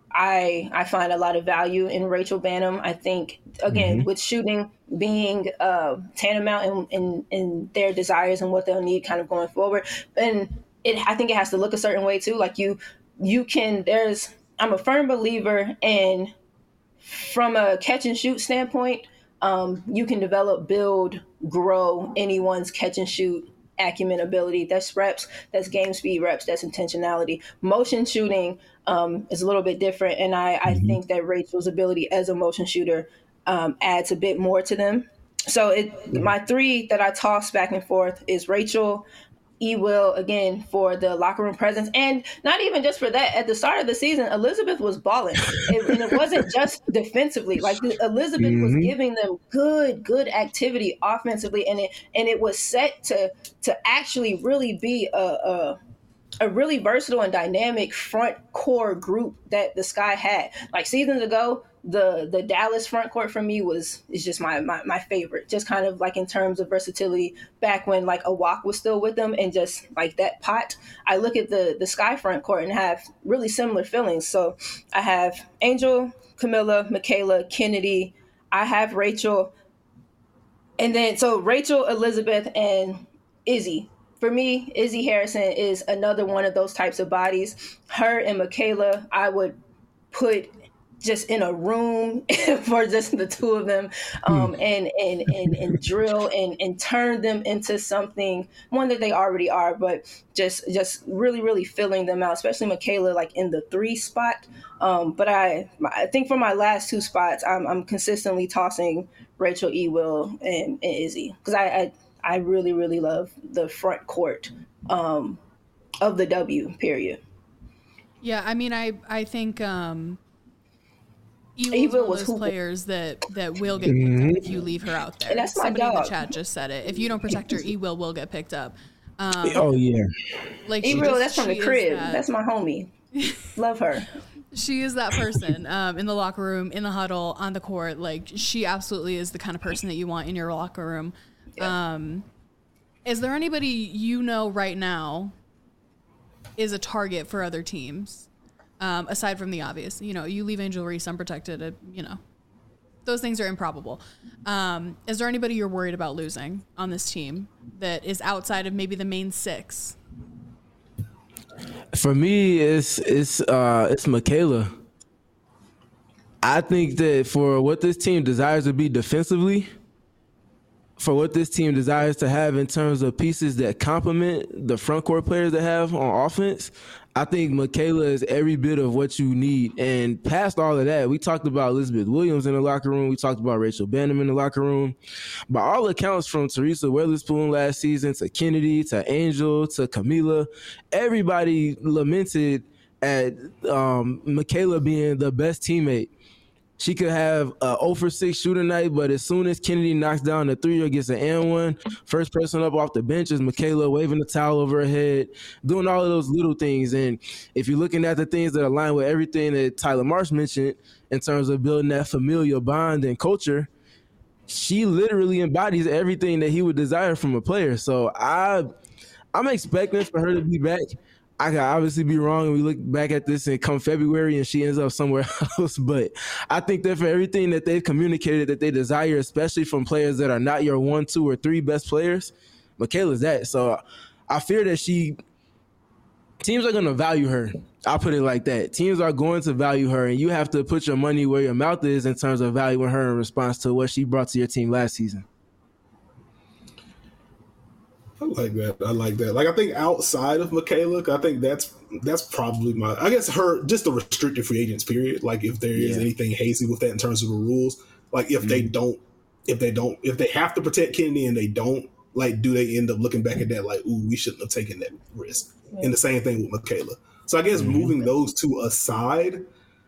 Speaker 2: I find a lot of value in Rachel Banham. I think, again, with shooting being tantamount in their desires and what they'll need kind of going forward. And I think it has to look a certain way too. Like you can, I'm a firm believer in, from a catch and shoot standpoint, you can develop, build, grow anyone's catch and shoot acumen, ability. That's reps, that's game speed reps, that's intentionality. Motion shooting is a little bit different, and I think that Rachel's ability as a motion shooter adds a bit more to them. So my three that I toss back and forth is Rachel, Will, again, for the locker room presence. And not even just for that. At the start of the season, Elizabeth was balling. And it wasn't just defensively. Like, Elizabeth was giving them good activity offensively. And it was set to actually really be a really versatile and dynamic front core group that the Sky had. Like, seasons ago, the Dallas front court for me is just my favorite, just kind of like in terms of versatility back when like Awak was still with them, and just like that pot. I look at the Sky front court and have really similar feelings. So I have Angel, Camilla, Michaela, Kennedy. I have Rachel. And then, so Rachel, Elizabeth, and Izzy. For me, Izzy Harrison is another one of those types of bodies. Her and Michaela, I would put just in a room for just the two of them, and drill and turn them into something, one that they already are, but just really, really filling them out, especially Michaela, like in the 3 spot. But I think for my last 2 spots, I'm consistently tossing Rachel, Will, and Izzy, because I really, really love the front court of the W, period.
Speaker 1: Yeah, I mean, I think Eva was one of those players that will get picked up if you leave her out there.
Speaker 2: And that's
Speaker 1: Somebody
Speaker 2: my dog.
Speaker 1: in the chat just said it. If you don't protect her, Ewil will get picked up.
Speaker 4: Oh yeah,
Speaker 2: like Ewil, that's from the crib. That's my homie. Love her.
Speaker 1: She is that person in the locker room, in the huddle, on the court. Like, she absolutely is the kind of person that you want in your locker room. Yeah. Is there anybody you know right now is a target for other teams? Aside from the obvious, you leave Angel Reese unprotected, those things are improbable. Is there anybody you're worried about losing on this team that is outside of maybe the main 6?
Speaker 4: For me, it's Michaela. I think that for what this team desires to be defensively, for what this team desires to have in terms of pieces that complement the front court players they have on offense, I think Michaela is every bit of what you need. And past all of that, we talked about Elizabeth Williams in the locker room. We talked about Rachel Banham in the locker room. By all accounts, from Teresa Weatherspoon last season to Kennedy to Angel to Camila, everybody lamented at Michaela being the best teammate. She could have a 0 for 6 shooting night, but as soon as Kennedy knocks down the 3 or gets an and-1, first person up off the bench is Michaela, waving the towel over her head, doing all of those little things. And if you're looking at the things that align with everything that Tyler Marsh mentioned in terms of building that familial bond and culture, she literally embodies everything that he would desire from a player. So I'm expecting for her to be back. I could obviously be wrong, and we look back at this and come February and she ends up somewhere else. But I think that for everything that they've communicated that they desire, especially from players that are not your 1, 2, or 3 best players, Michaela's that. So I fear that teams are going to value her. I'll put it like that. Teams are going to value her, and you have to put your money where your mouth is in terms of valuing her in response to what she brought to your team last season.
Speaker 3: I like that. Like, I think outside of Michaela, I think that's probably I guess her, just the restricted free agents period. Like, if there is anything hazy with that in terms of the rules, like if they have to protect Kennedy and they don't, like, do they end up looking back at that like, ooh, we shouldn't have taken that risk? Yeah. And the same thing with Michaela. So I guess moving those two aside,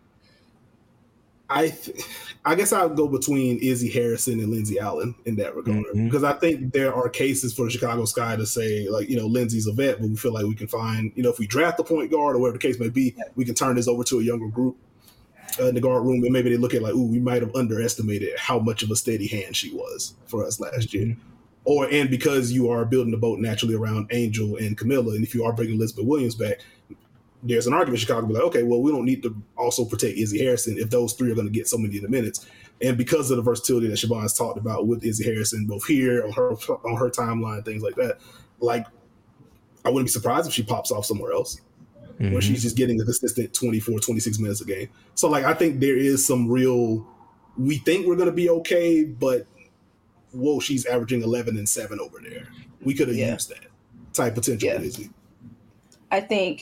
Speaker 3: I guess I would go between Izzy Harrison and Lindsay Allen in that regard, because I think there are cases for the Chicago Sky to say, like, Lindsay's a vet, but we feel like we can find, if we draft a point guard or whatever the case may be, we can turn this over to a younger group in the guard room, and maybe they look at like, ooh, we might have underestimated how much of a steady hand she was for us last year. And because you are building the boat naturally around Angel and Camilla, and if you are bringing Elizabeth Williams back, there's an argument Chicago be like, okay, well, we don't need to also protect Izzy Harrison if those three are going to get so many of the minutes. And because of the versatility that Siobhan's talked about with Izzy Harrison, both here on her timeline, things like that, like I wouldn't be surprised if she pops off somewhere else where she's just getting a consistent 24, 26 minutes a game. So like I think there is some real, we think we're going to be okay, but whoa, she's averaging 11 and 7 over there. We could have used that type potential with Izzy.
Speaker 2: I think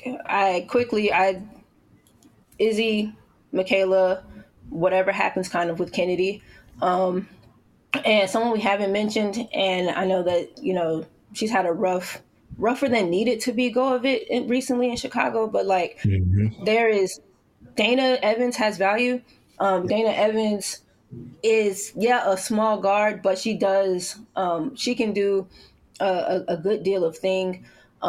Speaker 2: Izzy, Michaela, whatever happens kind of with Kennedy. And someone we haven't mentioned, and I know that, you know, she's had a rougher than needed to be go of it recently in Chicago, but like there is Dana Evans has value. Dana Evans is a small guard, but she can do a good deal of thing.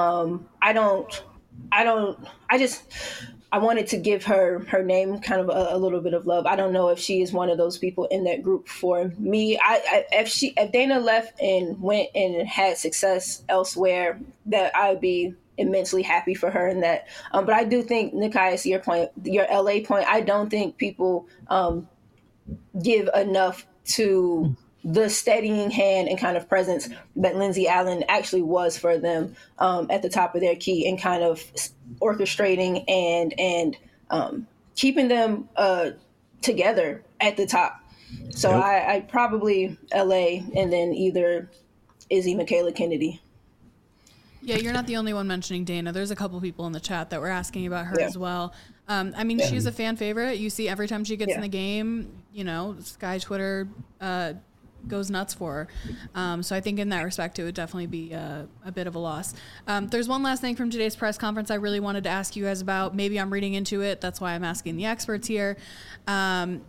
Speaker 2: I wanted to give her name kind of a little bit of love. I don't know if she is one of those people in that group for me. If Dana left and went and had success elsewhere, that I would be immensely happy for her in that. But I do think, Nikias, your LA point, I don't think people give enough to the steadying hand and kind of presence that Lindsay Allen actually was for them at the top of their key, and kind of orchestrating and keeping them together at the top. So I probably LA, and then either Izzy, Michaela, Kennedy.
Speaker 1: Yeah, you're not the only one mentioning Dana. There's a couple people in the chat that were asking about her as well. I mean, she's a fan favorite. You see every time she gets in the game, you know, Sky Twitter goes nuts for her. So I think in that respect, it would definitely be a bit of a loss. There's one last thing from today's press conference I really wanted to ask you guys about. Maybe I'm reading into it. That's why I'm asking the experts here. The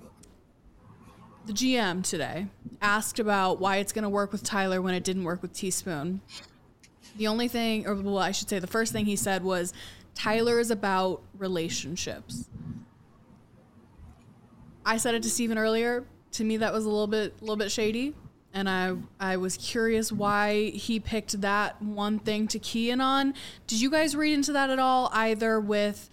Speaker 1: GM today asked about why it's going to work with Tyler when it didn't work with Teaspoon. The only thing, or well, I should say the first thing he said was, Tyler is about relationships. I said it to Steven earlier. To me, that was a little bit shady. And I was curious why he picked that one thing to key in on. Did you guys read into that at all, either with,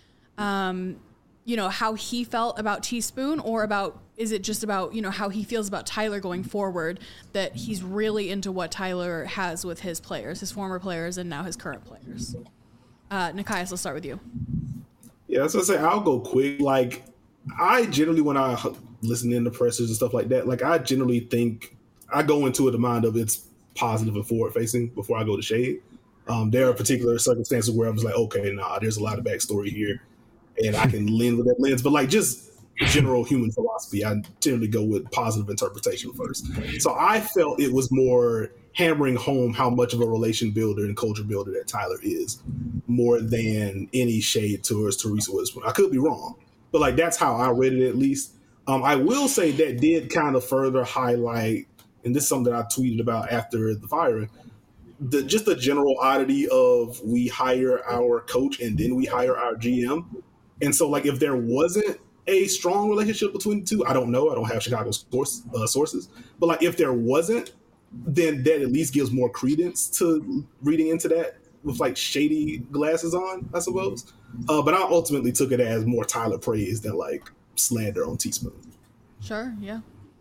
Speaker 1: you know, how he felt about Teaspoon, or about, is it just about, you know, how he feels about Tyler going forward, that he's really into what Tyler has with his players, his former players, and now his current players? Nikias, let's start with you.
Speaker 3: Yeah, so I say I'll go quick. Like, I generally, when I listen in to pressers and stuff like that, like I generally think I go into it the mind of it's positive and forward facing before I go to shade. There are particular circumstances where I was like, okay, there's a lot of backstory here, and I can lean with that lens. But like just general human philosophy, I generally go with positive interpretation first. So I felt it was more hammering home how much of a relation builder and culture builder that Tyler is, more than any shade towards Teresa Witherspoon. I could be wrong, but like that's how I read it at least. I will say that did kind of further highlight, and this is something that I tweeted about after the firing, just the general oddity of we hire our coach and then we hire our GM. And so like if there wasn't a strong relationship between the two, I don't know. I don't have Chicago's sources. But like if there wasn't, then that at least gives more credence to reading into that with like shady glasses on, I suppose. But I ultimately took it as more Tyler praise than like slander on Teaspoon.
Speaker 1: Sure, yeah.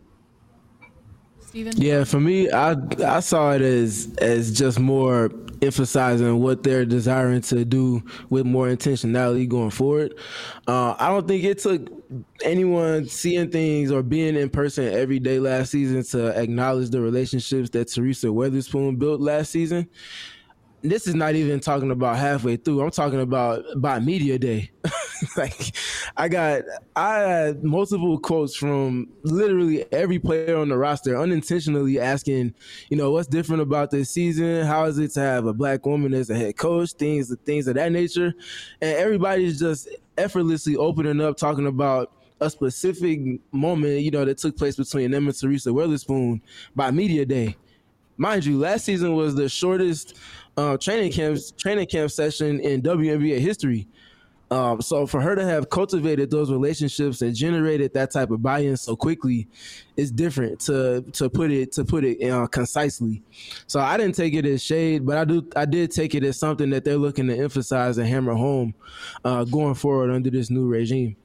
Speaker 1: Steven?
Speaker 4: Yeah, for me, I saw it as just more emphasizing what they're desiring to do with more intentionality going forward. I don't think it took anyone seeing things or being in person every day last season to acknowledge the relationships that Teresa Witherspoon built last season. This is not even talking about halfway through. I'm talking about by media day. Like I had multiple quotes from literally every player on the roster unintentionally asking, you know, what's different about this season? How is it to have a black woman as a head coach? Things of that nature. And everybody's just effortlessly opening up, talking about a specific moment, you know, that took place between them and Teresa Witherspoon by media day. Mind you, last season was the shortest training camp session in WNBA history. So for her to have cultivated those relationships and generated that type of buy-in so quickly is different, to put it concisely. So I didn't take it as shade, but I did take it as something that they're looking to emphasize and hammer home going forward under this new regime.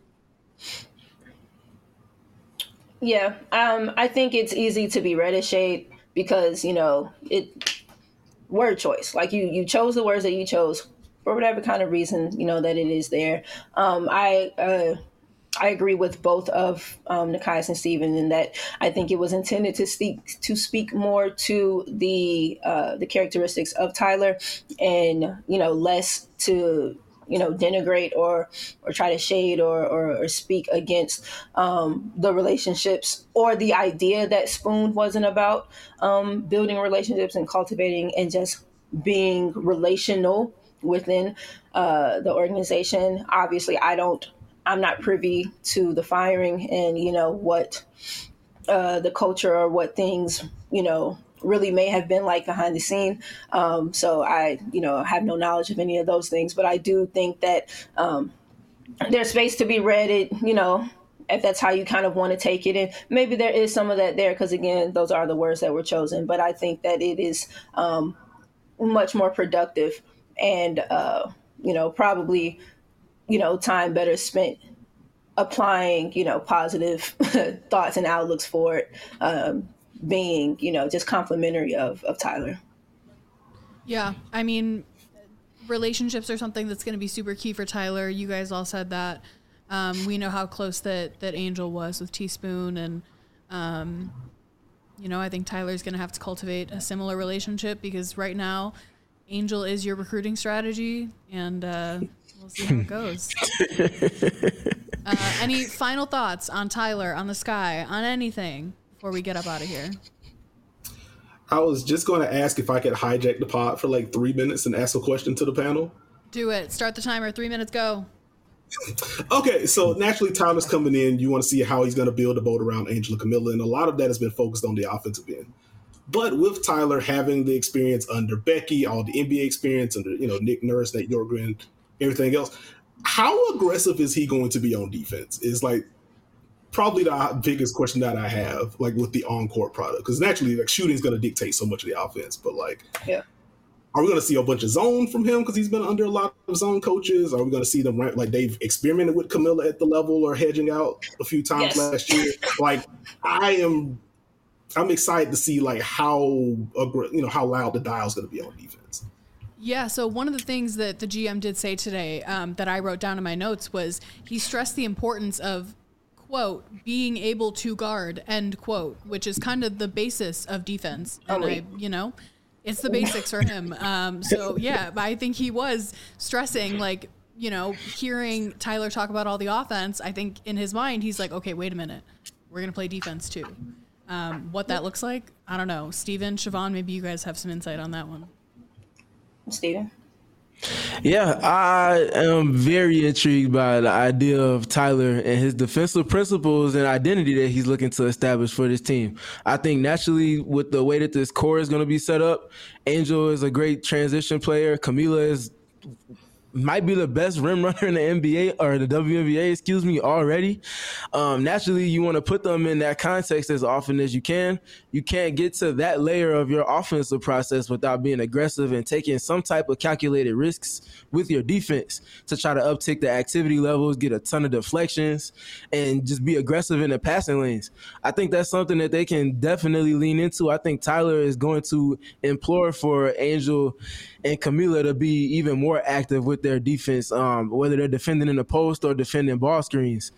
Speaker 2: Yeah, I think it's easy to be read as shade because it word choice. Like you chose the words that you chose for whatever kind of reason that it is there. I agree with both of Nekias and Steven in that I think it was intended to speak more to the characteristics of Tyler, and less to denigrate or try to shade or speak against the relationships or the idea that Spoon wasn't about building relationships and cultivating and just being relational within the organization. Obviously, I'm not privy to the firing and what the culture or what things really may have been like behind the scene. So I have no knowledge of any of those things, but I do think that there's space to be read it, if that's how you kind of want to take it. And maybe there is some of that there because, again, those are the words that were chosen. But I think that it is much more productive and, probably, time better spent applying, positive thoughts and outlooks for it, being, just complimentary of Tyler.
Speaker 1: Yeah. I mean, relationships are something that's going to be super key for Tyler. You guys all said that. We know how close that Angel was with Teaspoon. And, I think Tyler's going to have to cultivate a similar relationship because right now Angel is your recruiting strategy, and we'll see how it goes. Any final thoughts on Tyler, on the Sky, on anything before we get up out of here?
Speaker 3: I was just going to ask if I could hijack the pod for like 3 minutes and ask a question to the panel.
Speaker 1: Do it. Start the timer. 3 minutes, go.
Speaker 3: Okay, so naturally Tyler's coming in. You want to see how he's going to build a boat around Angel and Camilla, and a lot of that has been focused on the offensive end. But with Tyler having the experience under Becky, all the NBA experience under Nick Nurse, Nate Yorgren, everything else, how aggressive is he going to be on defense? Is like probably the biggest question that I have, like with the on-court product, because naturally, like shooting is going to dictate so much of the offense. But like,
Speaker 2: yeah,
Speaker 3: are we going to see a bunch of zone from him because he's been under a lot of zone coaches? Are we going to see them like they've experimented with Camilla at the level or hedging out a few times last year? Like, I'm excited to see like how loud the dial is going to be on defense.
Speaker 1: Yeah, so one of the things that the GM did say today that I wrote down in my notes was he stressed the importance of, quote, being able to guard, end quote, which is kind of the basis of defense. And it's the basics for him. So yeah, I think he was stressing, like, hearing Tyler talk about all the offense. I think in his mind, he's like, okay, wait a minute. We're going to play defense too. What that looks like, I don't know. Steven, Siobhan, maybe you guys have some insight on that one.
Speaker 2: Steven?
Speaker 4: Yeah, I am very intrigued by the idea of Tyler and his defensive principles and identity that he's looking to establish for this team. I think naturally with the way that this core is going to be set up, Angel is a great transition player. Camilla might be the best rim runner in the NBA or the WNBA, already. Naturally, you want to put them in that context as often as you can. You can't get to that layer of your offensive process without being aggressive and taking some type of calculated risks with your defense to try to uptick the activity levels, get a ton of deflections, and just be aggressive in the passing lanes. I think that's something that they can definitely lean into. I think Tyler is going to implore for Angel and Camilla to be even more active with their defense, whether they're defending in the post or defending ball screens.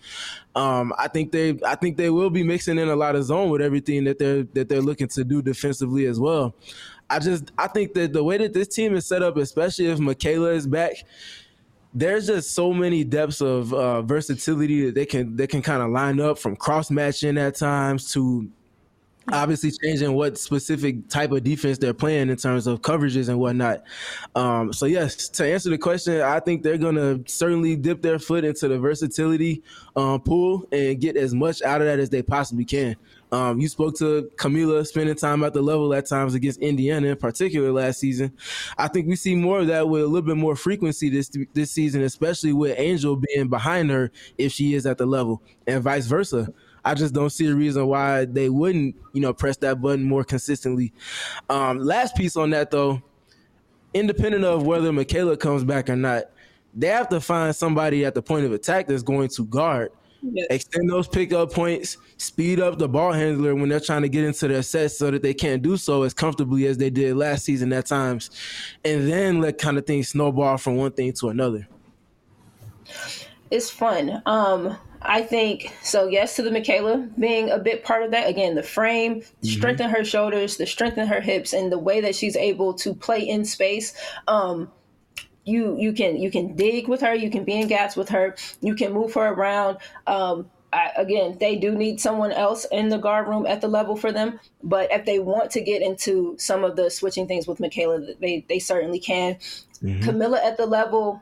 Speaker 4: I think they will be mixing in a lot of zone with everything that they're looking to do defensively as well. I think that the way that this team is set up, especially if Michaela is back, there's just so many depths of versatility that they can kind of line up, from cross matching at times to obviously changing what specific type of defense they're playing in terms of coverages and whatnot. So yes, to answer the question, I think they're going to certainly dip their foot into the versatility pool and get as much out of that as they possibly can. You spoke to Camila spending time at the level at times against Indiana in particular last season. I think we see more of that with a little bit more frequency this season, especially with Angel being behind her if she is at the level, and vice versa. I just don't see a reason why they wouldn't, press that button more consistently. Last piece on that, though, independent of whether Michaela comes back or not, they have to find somebody at the point of attack that's going to guard, extend those pickup points, speed up the ball handler when they're trying to get into their sets so that they can't do so as comfortably as they did last season at times, and then let kind of things snowball from one thing to another.
Speaker 2: It's fun. I think so. Yes, to the Michaela being a big part of that. Again, the frame, strengthen her shoulders, the strengthen her hips, and the way that she's able to play in space. You can dig with her. You can be in gaps with her. You can move her around. Again, they do need someone else in the guard room at the level for them. But if they want to get into some of the switching things with Michaela, they certainly can. Camila at the level.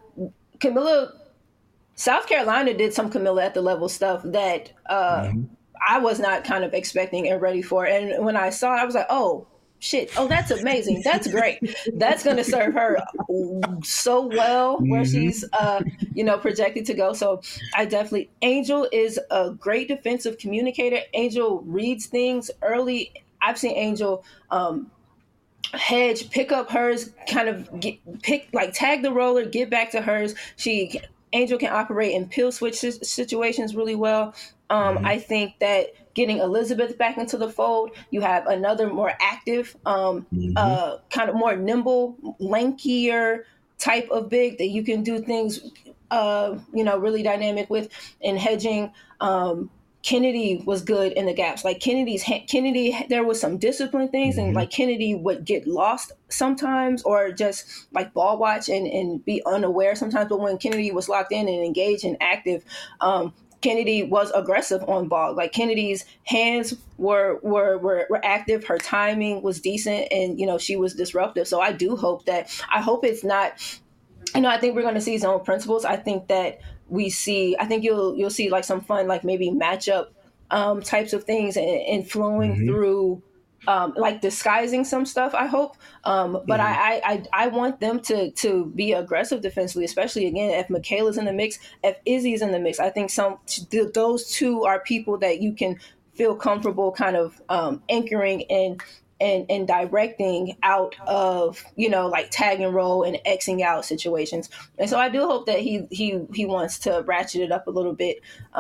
Speaker 2: South Carolina did some Camila at the level stuff that I was not kind of expecting and ready for. And when I saw it, I was like, oh, shit. Oh, that's amazing. That's great. That's going to serve her so well where she's, projected to go. So Angel is a great defensive communicator. Angel reads things early. I've seen Angel hedge, pick up hers, kind of tag the roller, get back to hers. Angel can operate in pill switch situations really well. I think that getting Elizabeth back into the fold, you have another more active, kind of more nimble, lankier type of big that you can do things, really dynamic with. And hedging, Kennedy was good in the gaps. Like Kennedy, there was some discipline things, and like Kennedy would get lost sometimes, or just like ball watch and be unaware sometimes. But when Kennedy was locked in and engaged and active, Kennedy was aggressive on ball. Like Kennedy's hands were active. Her timing was decent, and she was disruptive. So I hope it's not. I think we're going to see zone principles. I think that I think you'll see like some fun, like maybe matchup types of things and flowing through, like disguising some stuff, I hope. But I want them to be aggressive defensively, especially again, if Michaela's in the mix, if Izzy's in the mix. I think those two are people that you can feel comfortable kind of anchoring and directing out of, like tag and roll and Xing out situations. And so I do hope that he wants to ratchet it up a little bit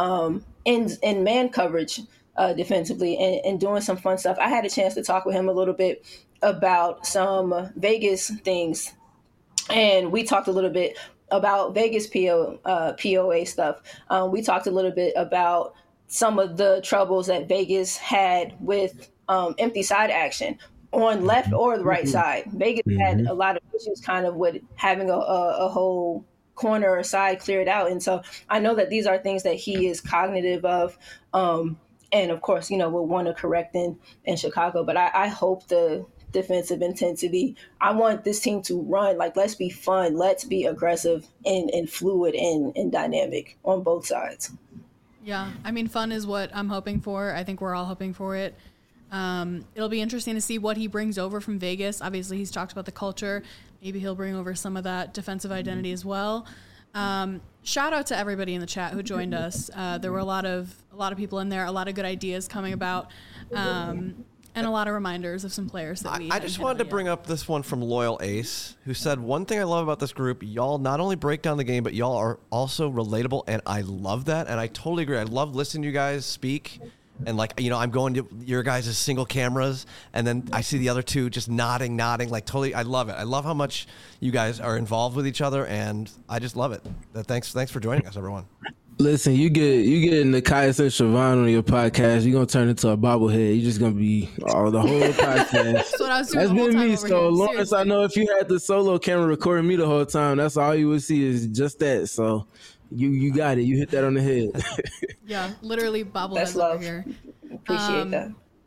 Speaker 2: in man coverage defensively and doing some fun stuff. I had a chance to talk with him a little bit about some Vegas things, and we talked a little bit about Vegas POA stuff. We talked a little bit about some of the troubles that Vegas had with empty side action on left or the right side. Vegas had a lot of issues kind of with having a whole corner or side cleared out. And so I know that these are things that he is cognitive of. And of course, will want to correct in Chicago. But I hope the defensive intensity, I want this team to run. Like, let's be fun. Let's be aggressive and fluid and dynamic on both sides.
Speaker 1: Yeah. I mean, fun is what I'm hoping for. I think we're all hoping for it. It'll be interesting to see what he brings over from Vegas. Obviously, he's talked about the culture. Maybe he'll bring over some of that defensive identity as well. Shout out to everybody in the chat who joined us. There were a lot of people in there, a lot of good ideas coming about, and a lot of reminders of some players that we.
Speaker 5: I just wanted to bring up this one from Loyal Ace, who said, one thing I love about this group, y'all not only break down the game, but y'all are also relatable, and I love that, and I totally agree. I love listening to you guys speak. And I'm going to your guys' single cameras, and then I see the other two just nodding, like totally. I love it. I love how much you guys are involved with each other, and I just love it. Thanks for joining us, everyone.
Speaker 4: Listen, you get Nakias and Siobhan on your podcast, you're gonna turn into a bobblehead. You're just gonna be the whole podcast.
Speaker 1: That's what I was doing.
Speaker 4: That's been me.
Speaker 1: So
Speaker 4: here. Lawrence,
Speaker 1: seriously.
Speaker 4: I know if you had the solo camera recording me the whole time, that's all you would see is just that. So you got it. You hit that on the head.
Speaker 1: Yeah, literally bobbleheads
Speaker 2: That's
Speaker 1: over
Speaker 2: love.
Speaker 1: here.
Speaker 2: Appreciate that.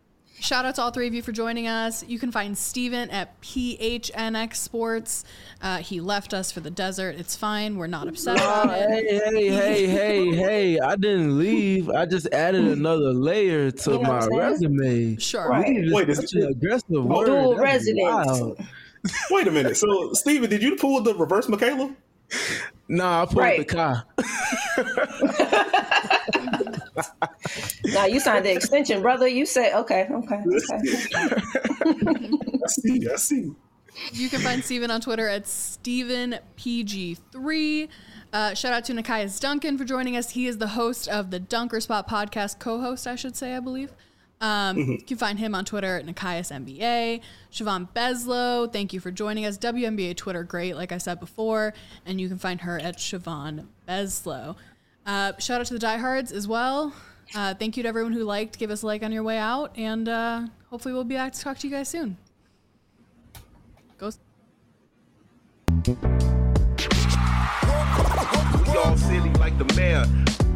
Speaker 1: Shout out to all three of you for joining us. You can find Steven at PHNX Sports. He left us for the desert. It's fine. We're not upset about it.
Speaker 4: Hey. I didn't leave. I just added another layer to my resume.
Speaker 1: Sure.
Speaker 2: Right.
Speaker 3: Wait,
Speaker 4: Such an aggressive word.
Speaker 2: Dual
Speaker 4: That's
Speaker 2: residence.
Speaker 4: wild.
Speaker 3: Wait a minute. So, Steven, did you pull the reverse Michaela?
Speaker 4: Nah, I pulled
Speaker 2: Right.
Speaker 4: the car.
Speaker 2: Now you signed the extension, brother. You said, okay.
Speaker 3: I see.
Speaker 1: You can find Steven on Twitter at StevenPG3. Shout out to Nikias Duncan for joining us. He is the host of the Dunker Spot podcast, co-host, I should say, I believe. You can find him on Twitter at Nikias NBA. Siobhan Beslow, thank you for joining us. WNBA Twitter, great, like I said before. And you can find her at Siobhan Beslow. Shout out to the diehards as well. Thank you to everyone who liked. Give us a like on your way out. And hopefully we'll be back to talk to you guys soon. Go.
Speaker 6: We all silly like the mayor.